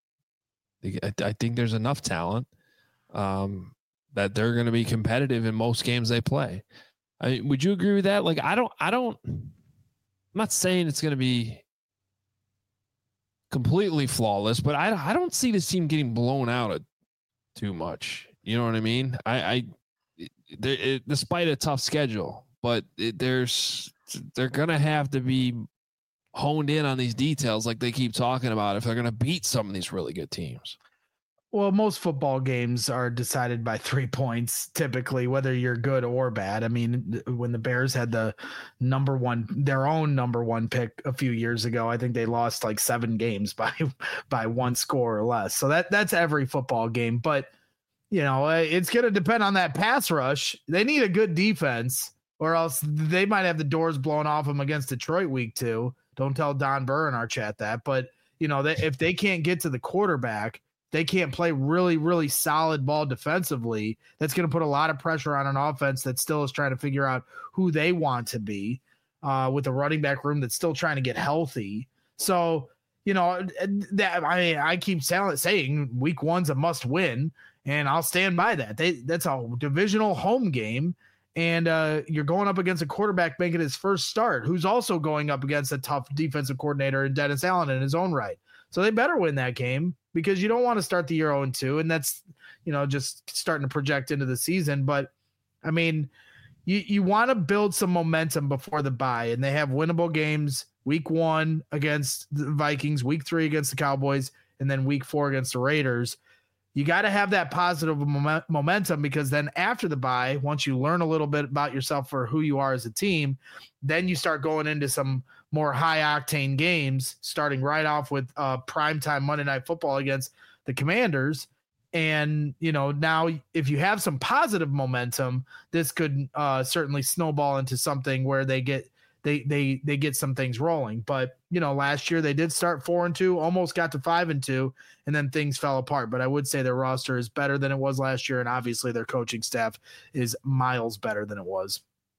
I think there's enough talent um, that they're going to be competitive in most games they play. I mean, would you agree with that? Like, I don't, I don't, I'm not saying it's going to be completely flawless, but I, I don't see this team getting blown out too much. You know what I mean? I, I, it, it, despite a tough schedule. But it, there's they're going to have to be honed in on these details like they keep talking about if they're going to beat some of these really good teams. Well, most football games are decided by three points, typically, whether you're good or bad. I mean, when the Bears had the number one, their own number one pick a few years ago, I think they lost like seven games by by one score or less. So that that's every football game. But, you know, it's going to depend on that pass rush. They need a good defense, or else they might have the doors blown off them against Detroit week two. Don't tell Don Burr in our chat that. But, you know, they, if they can't get to the quarterback, they can't play really, really solid ball defensively. That's going to put a lot of pressure on an offense that still is trying to figure out who they want to be uh, with a running back room that's still trying to get healthy. So, you know, that I mean, I keep saying week one's a must win, and I'll stand by that. They, that's a divisional home game. And uh, you're going up against a quarterback making his first start, who's also going up against a tough defensive coordinator in Dennis Allen in his own right. So they better win that game, because you don't want to start the year oh and two, and that's, you know, just starting to project into the season. But, I mean, you, you want to build some momentum before the bye, and they have winnable games week one against the Vikings, week three against the Cowboys, and then week four against the Raiders. You got to have that positive moment, momentum, because then after the bye, once you learn a little bit about yourself for who you are as a team, then you start going into some more high octane games, starting right off with uh, primetime Monday Night Football against the Commanders. And, you know, now if you have some positive momentum, this could uh, certainly snowball into something where they get They they they get some things rolling. But, you know, last year they did start four and two, almost got to five and two, and then things fell apart. But I would say their roster is better than it was last year, and obviously their coaching staff is miles better than it was.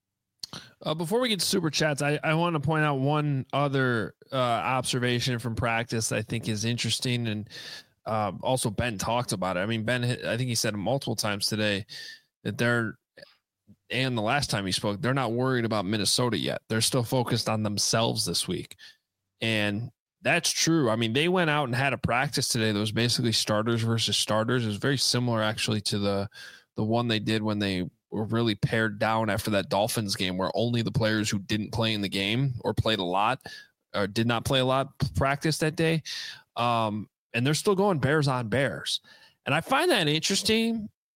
Uh, before we get to super chats, I, I want to point out one other uh, observation from practice I think is interesting, and uh, also Ben talked about it. I mean, Ben, I think he said it multiple times today that they're, and the last time he spoke, they're not worried about Minnesota yet. They're still focused on themselves this week. And that's true. I mean, they went out and had a practice today that was basically starters versus starters. It was very similar actually to the, the one they did when they were really pared down after that Dolphins game, where only the players who didn't play in the game or played a lot or did not play a lot practice that day. Um, and they're still going Bears on Bears. And I find that interesting,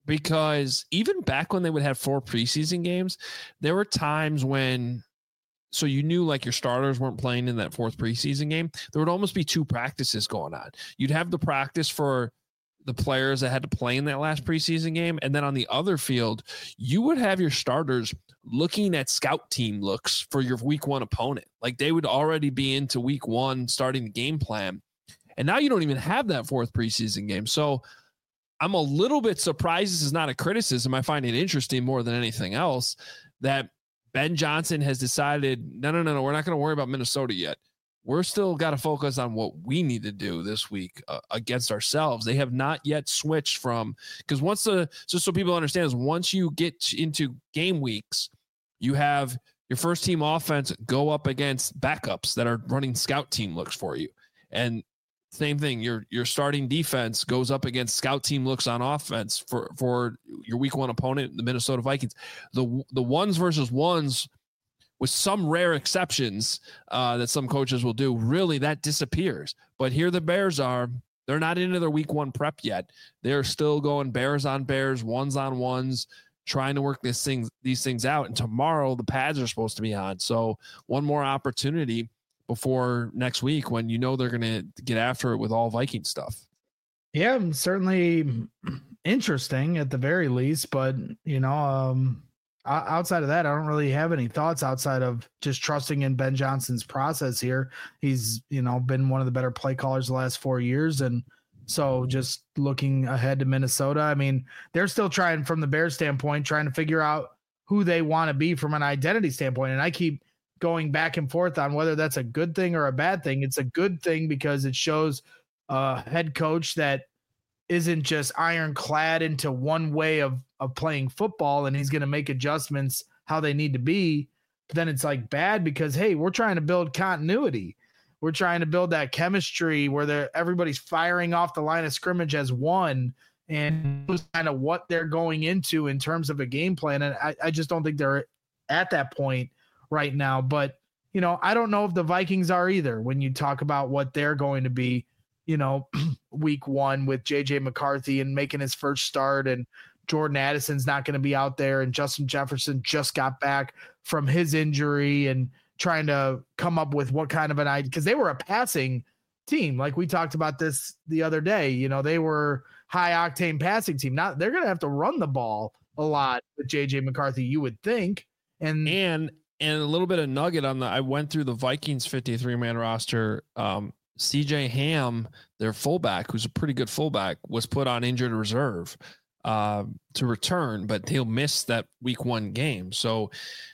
because even back when they would have four preseason games, there were times when, so you knew like your starters weren't playing in that fourth preseason game. There would almost be two practices going on. You'd have the practice for the players that had to play in that last preseason game. And then on the other field, you would have your starters looking at scout team looks for your week one opponent. Like they would already be into week one, starting the game plan. And now you don't even have that fourth preseason game. So I'm a little bit surprised. This is not a criticism. I find it interesting more than anything else that Ben Johnson has decided, no, no, no, no, we're not going to worry about Minnesota yet. We're still got to focus on what we need to do this week uh, against ourselves. They have not yet switched from, because once the, just so people understand, is once you get into game weeks, you have your first team offense go up against backups that are running scout team looks for you. And same thing, your your starting defense goes up against scout team looks on offense for, for your week one opponent, the Minnesota Vikings. The the ones versus ones, with some rare exceptions uh, that some coaches will do, really that disappears. But here the Bears are, they're not into their week one prep yet. They're still going bears on bears, ones on ones, trying to work this thing, these things out. And tomorrow the pads are supposed to be on. So one more opportunity before next week when you know they're going to get after it with all Viking stuff. Yeah, certainly interesting at the very least, but you know, um, outside of that, I don't really have any thoughts outside of just trusting in Ben Johnson's process here. He's, you know, been one of the better play callers the last four years. And so just looking ahead to Minnesota, I mean, they're still trying from the Bears standpoint, trying to figure out who they want to be from an identity standpoint. And I keep going back and forth on whether that's a good thing or a bad thing. It's a good thing because it shows a head coach that isn't just ironclad into one way of, of playing football, and he's going to make adjustments how they need to be. But then it's like bad because, hey, we're trying to build continuity. We're trying to build that chemistry where everybody's firing off the line of scrimmage as one, and kind of what they're going into in terms of a game plan. And I, I just don't think they're at that point right now. But, you know, I don't know if the Vikings are either when you talk about what they're going to be, you know, week one with J J McCarthy and making his first start, and Jordan Addison's not going to be out there, and Justin Jefferson just got back from his injury and trying to come up with what kind of an idea, because they were a passing team. Like we talked about this the other day, you know, they were high octane passing team. Now they're going to have to run the ball a lot with J J McCarthy, you would think. And, and, and a little bit of nugget on the, I went through the Vikings fifty-three man roster. Um, C J Ham, their fullback, who's a pretty good fullback, was put on injured reserve uh, to return, but he'll miss that week one game. So,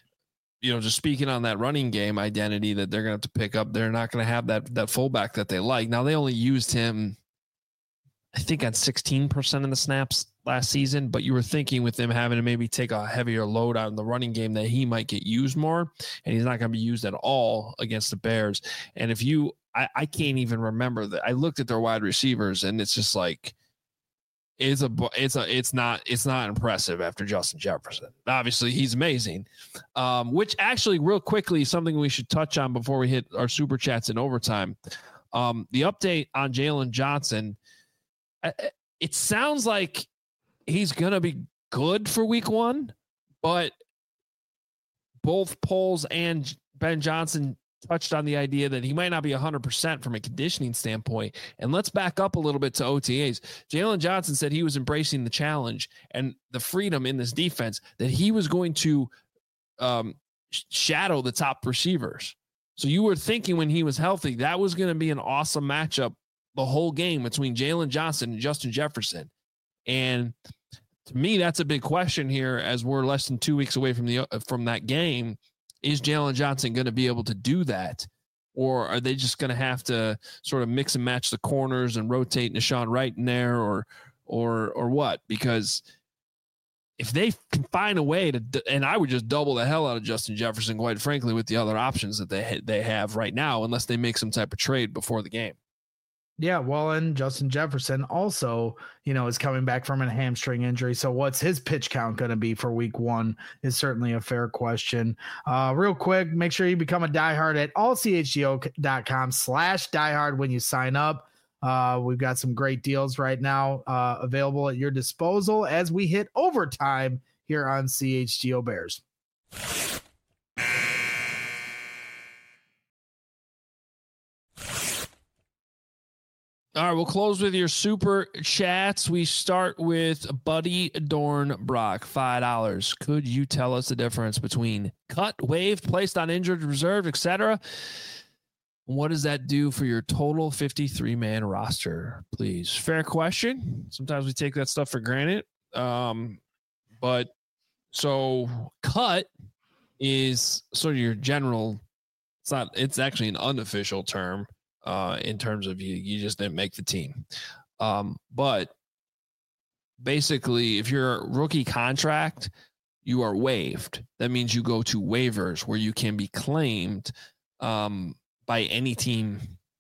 you know, just speaking on that running game identity that they're going to have to pick up, they're not going to have that that fullback that they like. Now, they only used him, I think, on sixteen percent of the snaps last season, but you were thinking with them having to maybe take a heavier load on the running game that he might get used more, and he's not going to be used at all against the Bears. And if you, I, I can't even remember that. I looked at their wide receivers, and it's just like, it's a, it's a, it's not, it's not impressive after Justin Jefferson. Obviously, he's amazing. Um, which actually, real quickly, something we should touch on before we hit our super chats in overtime. Um, the update on Jalen Johnson. It sounds like he's going to be good for week one, but both Poles and Ben Johnson touched on the idea that he might not be one hundred percent from a conditioning standpoint. And let's back up a little bit to O T As. Jalen Johnson said he was embracing the challenge and the freedom in this defense, that he was going to um, shadow the top receivers. So you were thinking when he was healthy, that was going to be an awesome matchup the whole game between Jalen Johnson and Justin Jefferson. And to me, that's a big question here as we're less than two weeks away from the from that game. Is Jalen Johnson going to be able to do that? Or are they just going to have to sort of mix and match the corners and rotate Nahshon Wright in there, or or or what? Because if they can find a way to, and I would just double the hell out of Justin Jefferson, quite frankly, with the other options that they they have right now, unless they make some type of trade before the game. Yeah, well, and Justin Jefferson also, you know, is coming back from a hamstring injury. So what's his pitch count going to be for week one is certainly a fair question. Uh, real quick, make sure you become a diehard at allchgo.com slash diehard when you sign up. Uh, we've got some great deals right now uh, available at your disposal as we hit overtime here on C H G O Bears. All right, we'll close with your super chats. We start with Buddy Dornbrock, five dollars. Could you tell us the difference between cut, waived, placed on injured reserve, et cetera? What does that do for your total fifty-three man roster, please? Fair question. Sometimes we take that stuff for granted. Um, but so cut is sort of your general, it's not, it's actually an unofficial term. Uh, in terms of you, you just didn't make the team. Um, but basically, if you're a rookie contract, you are waived. That means you go to waivers where you can be claimed um, by any team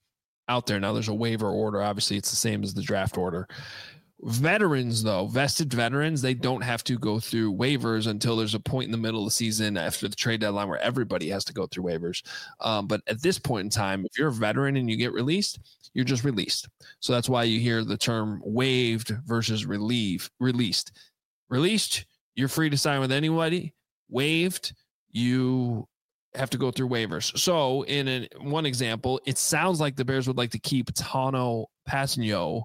out there. Now, there's a waiver order. Obviously, it's the same as the draft order. Veterans, though, vested veterans, they don't have to go through waivers until there's a point in the middle of the season after the trade deadline where everybody has to go through waivers. Um, but at this point in time, if you're a veteran and you get released, you're just released. So that's why you hear the term waived versus relieve, released. Released, you're free to sign with anybody. Waived, you have to go through waivers. So in an, one example, it sounds like the Bears would like to keep Tano Passanio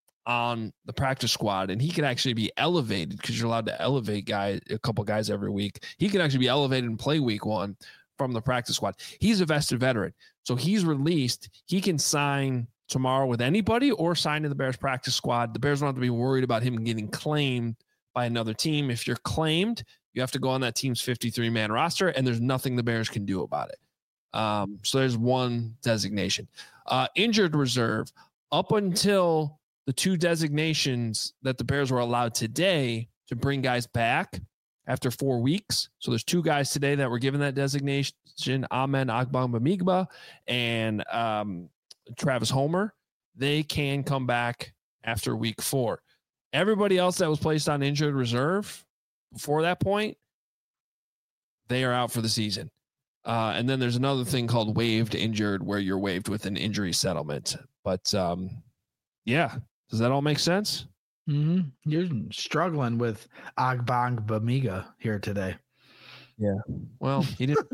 on the practice squad, and he could actually be elevated because you're allowed to elevate guys, a couple guys every week. He could actually be elevated and play week one from the practice squad. He's a vested veteran. So he's released. He can sign tomorrow with anybody or sign to the Bears practice squad. The Bears don't have to be worried about him getting claimed by another team. If you're claimed, you have to go on that team's fifty-three man roster, and there's nothing the Bears can do about it. Um, so there's one designation. Uh, injured reserve, up until the two designations that the Bears were allowed today to bring guys back after four weeks. So there's two guys today that were given that designation, Amen Agbangbamigba and um, Travis Homer. They can come back after week four. Everybody else that was placed on injured reserve before that point, they are out for the season. Uh, and then there's another thing called waived injured, where you're waived with an injury settlement. But um, yeah. Does that all make sense? Mm-hmm. You're struggling with Agbangbamiga here today. Yeah. Well, he didn't.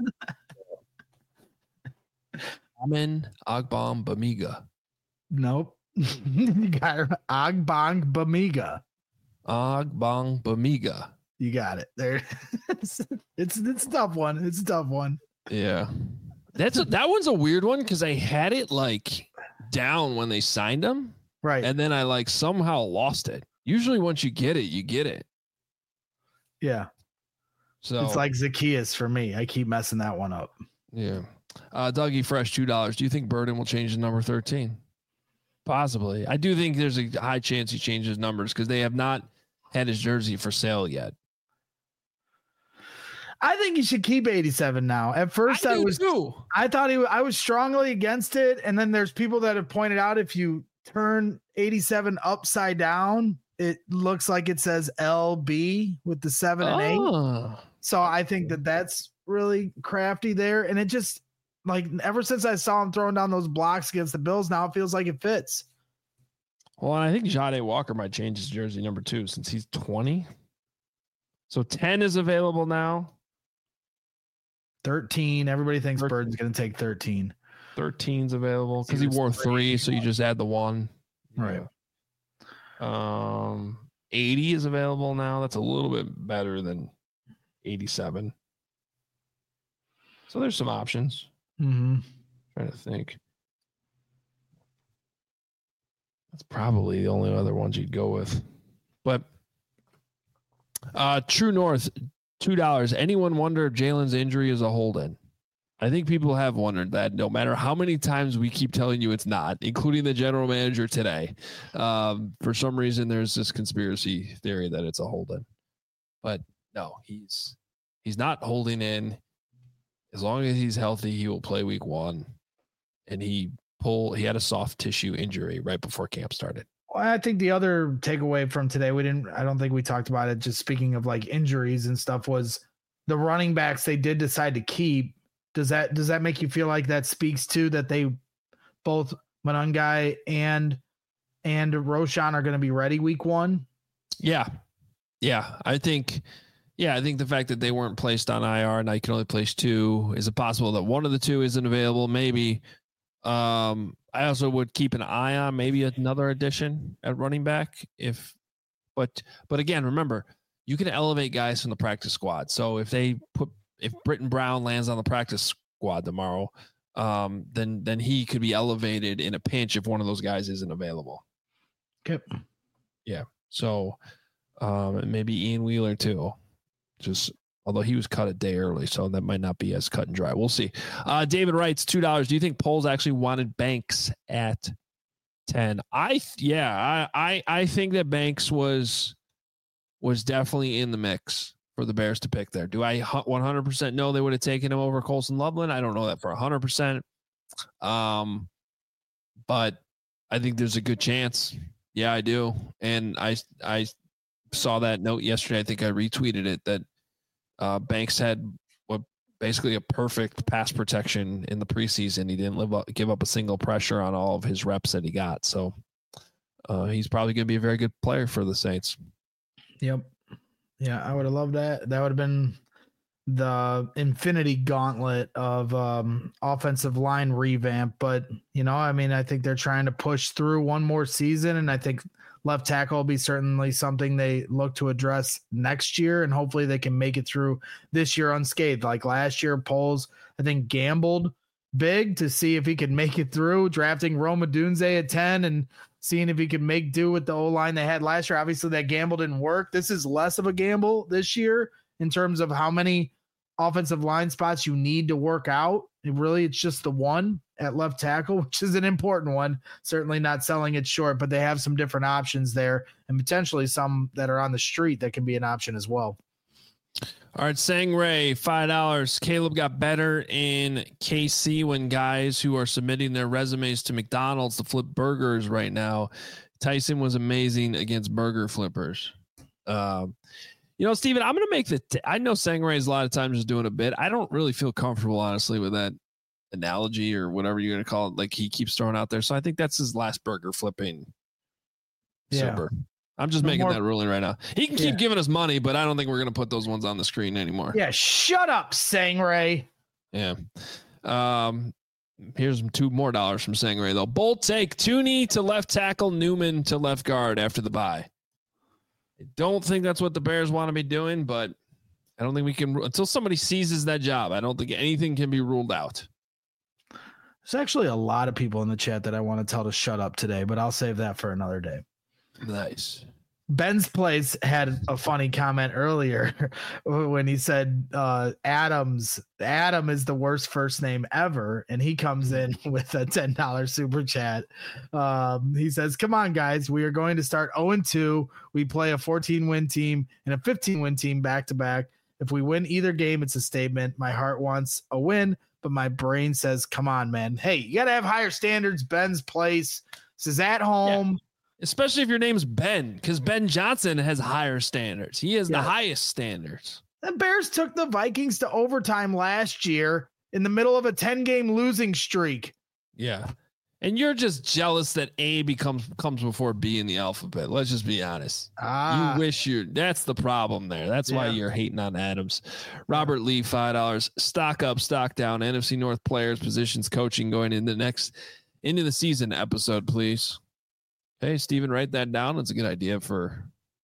Amen Agbangbamiga. Nope. You got Agbangbamiga. Agbangbamiga. You got it. There. it's, it's it's a tough one. It's a tough one. Yeah. That's a, that one's a weird one because I had it like down when they signed him. Right. And then I like somehow lost it. Usually once you get it, you get it. Yeah. So it's like Zacchaeus for me. I keep messing that one up. Yeah. Uh, Dougie Fresh, two dollars. Do you think Burden will change the number thirteen? Possibly. I do think there's a high chance he changes numbers because they have not had his jersey for sale yet. I think he should keep eighty-seven now. At first, I, I was too. I thought he. I was strongly against it, and then there's people that have pointed out if you turn eighty-seven upside down, it looks like it says L B with the seven and oh. eight. So I think that that's really crafty there, and it just like ever since I saw him throwing down those blocks against the Bills, now it feels like it fits. Well, I think Jade Walker might change his jersey number two since he's twenty. So ten is available now. thirteen. Everybody thinks Burden's going to take thirteen. thirteen's available because he wore three, so you just add the one. Right. Um, eighty is available now. That's a little bit better than eighty-seven. So there's some options. Mm-hmm. Trying to think. That's probably the only other ones you'd go with. But uh, True North, two dollars. Anyone wonder if Jalen's injury is a hold-in? I think people have wondered that no matter how many times we keep telling you it's not, including the general manager today. Um, for some reason, there's this conspiracy theory that it's a hold-in. But no, he's he's not holding in. As long as he's healthy, he will play week one. And he pull he had a soft tissue injury right before camp started. Well, I think the other takeaway from today, we didn't, I don't think we talked about it, just speaking of like injuries and stuff, was the running backs they did decide to keep. Does that, does that make you feel like that speaks to that they both Monangai and and Roschon are going to be ready week one? Yeah. Yeah. I think, yeah, I think the fact that they weren't placed on I R and I can only place two, is it possible that one of the two isn't available? Maybe. Um, I also would keep an eye on maybe another addition at running back if, but, but again, remember, you can elevate guys from the practice squad. So if they put, if Britton Brown lands on the practice squad tomorrow, um, then, then he could be elevated in a pinch if one of those guys isn't available. Okay. Yeah. So, um, maybe Ian Wheeler too. Just although he was cut a day early, so that might not be as cut and dry. We'll see. Uh, David writes two dollars. Do you think Poles actually wanted Banks at ten? I yeah, I, I I think that Banks was was definitely in the mix for the Bears to pick there. Do I one hundred percent know they would have taken him over Colson Loveland? I don't know that for one hundred percent. Um, but I think there's a good chance. Yeah, I do. And I I saw that note yesterday. I think I retweeted it that uh, Banks had what basically a perfect pass protection in the preseason. He didn't live up, give up a single pressure on all of his reps that he got. So uh, he's probably going to be a very good player for the Saints. Yep. Yeah, I would have loved that. That would have been the infinity gauntlet of um, offensive line revamp. But, you know, I mean, I think they're trying to push through one more season, and I think left tackle will be certainly something they look to address next year, and hopefully they can make it through this year unscathed. Like last year, Poles, I think, gambled big to see if he could make it through, drafting Rome Odunze at ten and seeing if he could make do with the O-line they had last year. Obviously, that gamble didn't work. This is less of a gamble this year in terms of how many offensive line spots you need to work out. It really, it's just the one at left tackle, which is an important one. Certainly not selling it short, but they have some different options there and potentially some that are on the street that can be an option as well. All right, Sang Ray, five dollars. Caleb got better in K C when guys who are submitting their resumes to McDonald's to flip burgers right now. Tyson was amazing against burger flippers. Um, you know, Steven, I'm going to make the, t- I know Sang Ray is a lot of times just doing a bit. I don't really feel comfortable, honestly, with that analogy or whatever you're going to call it. Like he keeps throwing out there. So I think that's his last burger flipping. Yeah. Super. I'm just No making more, that ruling right now. He can keep yeah. giving us money, but I don't think we're going to put those ones on the screen anymore. Yeah. Shut up, Sang Ray. Yeah. Um, here's two more dollars from Sang Ray, though. Bold take, Tooney to left tackle, Newman to left guard after the bye. I don't think that's what the Bears want to be doing, but I don't think we can, until somebody seizes that job, I don't think anything can be ruled out. There's actually a lot of people in the chat that I want to tell to shut up today, but I'll save that for another day. Nice. Ben's Place had a funny comment earlier when he said uh, Adams, Adam is the worst first name ever. And he comes in with a ten dollars super chat. Um, he says, come on, guys, we are going to start oh and two. We play a fourteen win team and a fifteen win team back to back. If we win either game, it's a statement. My heart wants a win, but my brain says, come on, man. Hey, you got to have higher standards. Ben's Place. This is at home. Yeah. Especially if your name's Ben, because Ben Johnson has higher standards. He has yeah. the highest standards. The Bears took the Vikings to overtime last year in the middle of a ten-game losing streak. Yeah. And you're just jealous that A becomes comes before B in the alphabet. Let's just be honest. Ah. You wish you're – that's the problem there. That's why yeah. you're hating on Adams. Robert Lee, five dollars. Stock up, stock down. N F C North players, positions, coaching going into the next – into the season episode, please. Hey, Steven, write that down. It's a good idea for,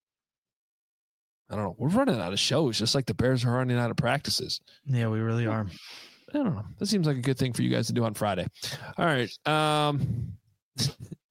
I don't know. We're running out of shows, just like the Bears are running out of practices. Yeah, we really are. I don't know. That seems like a good thing for you guys to do on Friday. All right. Um, is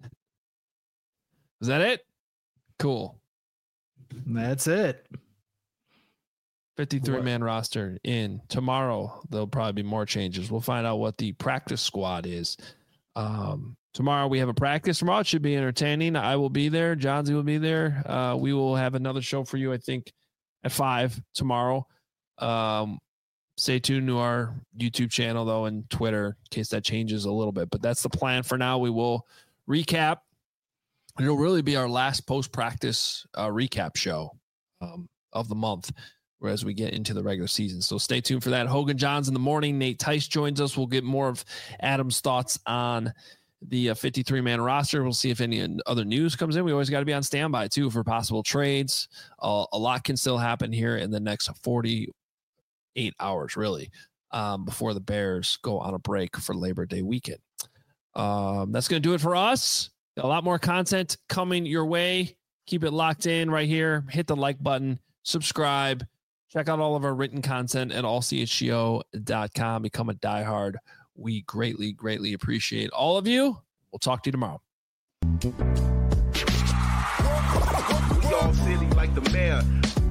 that it? Cool. That's it. fifty-three man roster in. Tomorrow, there'll probably be more changes. We'll find out what the practice squad is. Um, Tomorrow we have a practice. Tomorrow it should be entertaining. I will be there. Johnsy will be there. Uh, we will have another show for you, I think, at five tomorrow. Um, stay tuned to our YouTube channel, though, and Twitter in case that changes a little bit. But that's the plan for now. We will recap. It'll really be our last post-practice uh, recap show um, of the month as we get into the regular season. So stay tuned for that. Hogan Johns in the morning. Nate Tice joins us. We'll get more of Adam's thoughts on the uh, fifty-three man roster. We'll see if any other news comes in. We always got to be on standby too for possible trades. Uh, a lot can still happen here in the next forty-eight hours, really, um, before the Bears go on a break for Labor Day weekend. Um, that's going to do it for us. Got a lot more content coming your way. Keep it locked in right here. Hit the like button, subscribe, check out all of our written content at all c h g o dot com. Become a diehard. We greatly, greatly appreciate all of you. We'll talk to you tomorrow. We all silly like the mayor.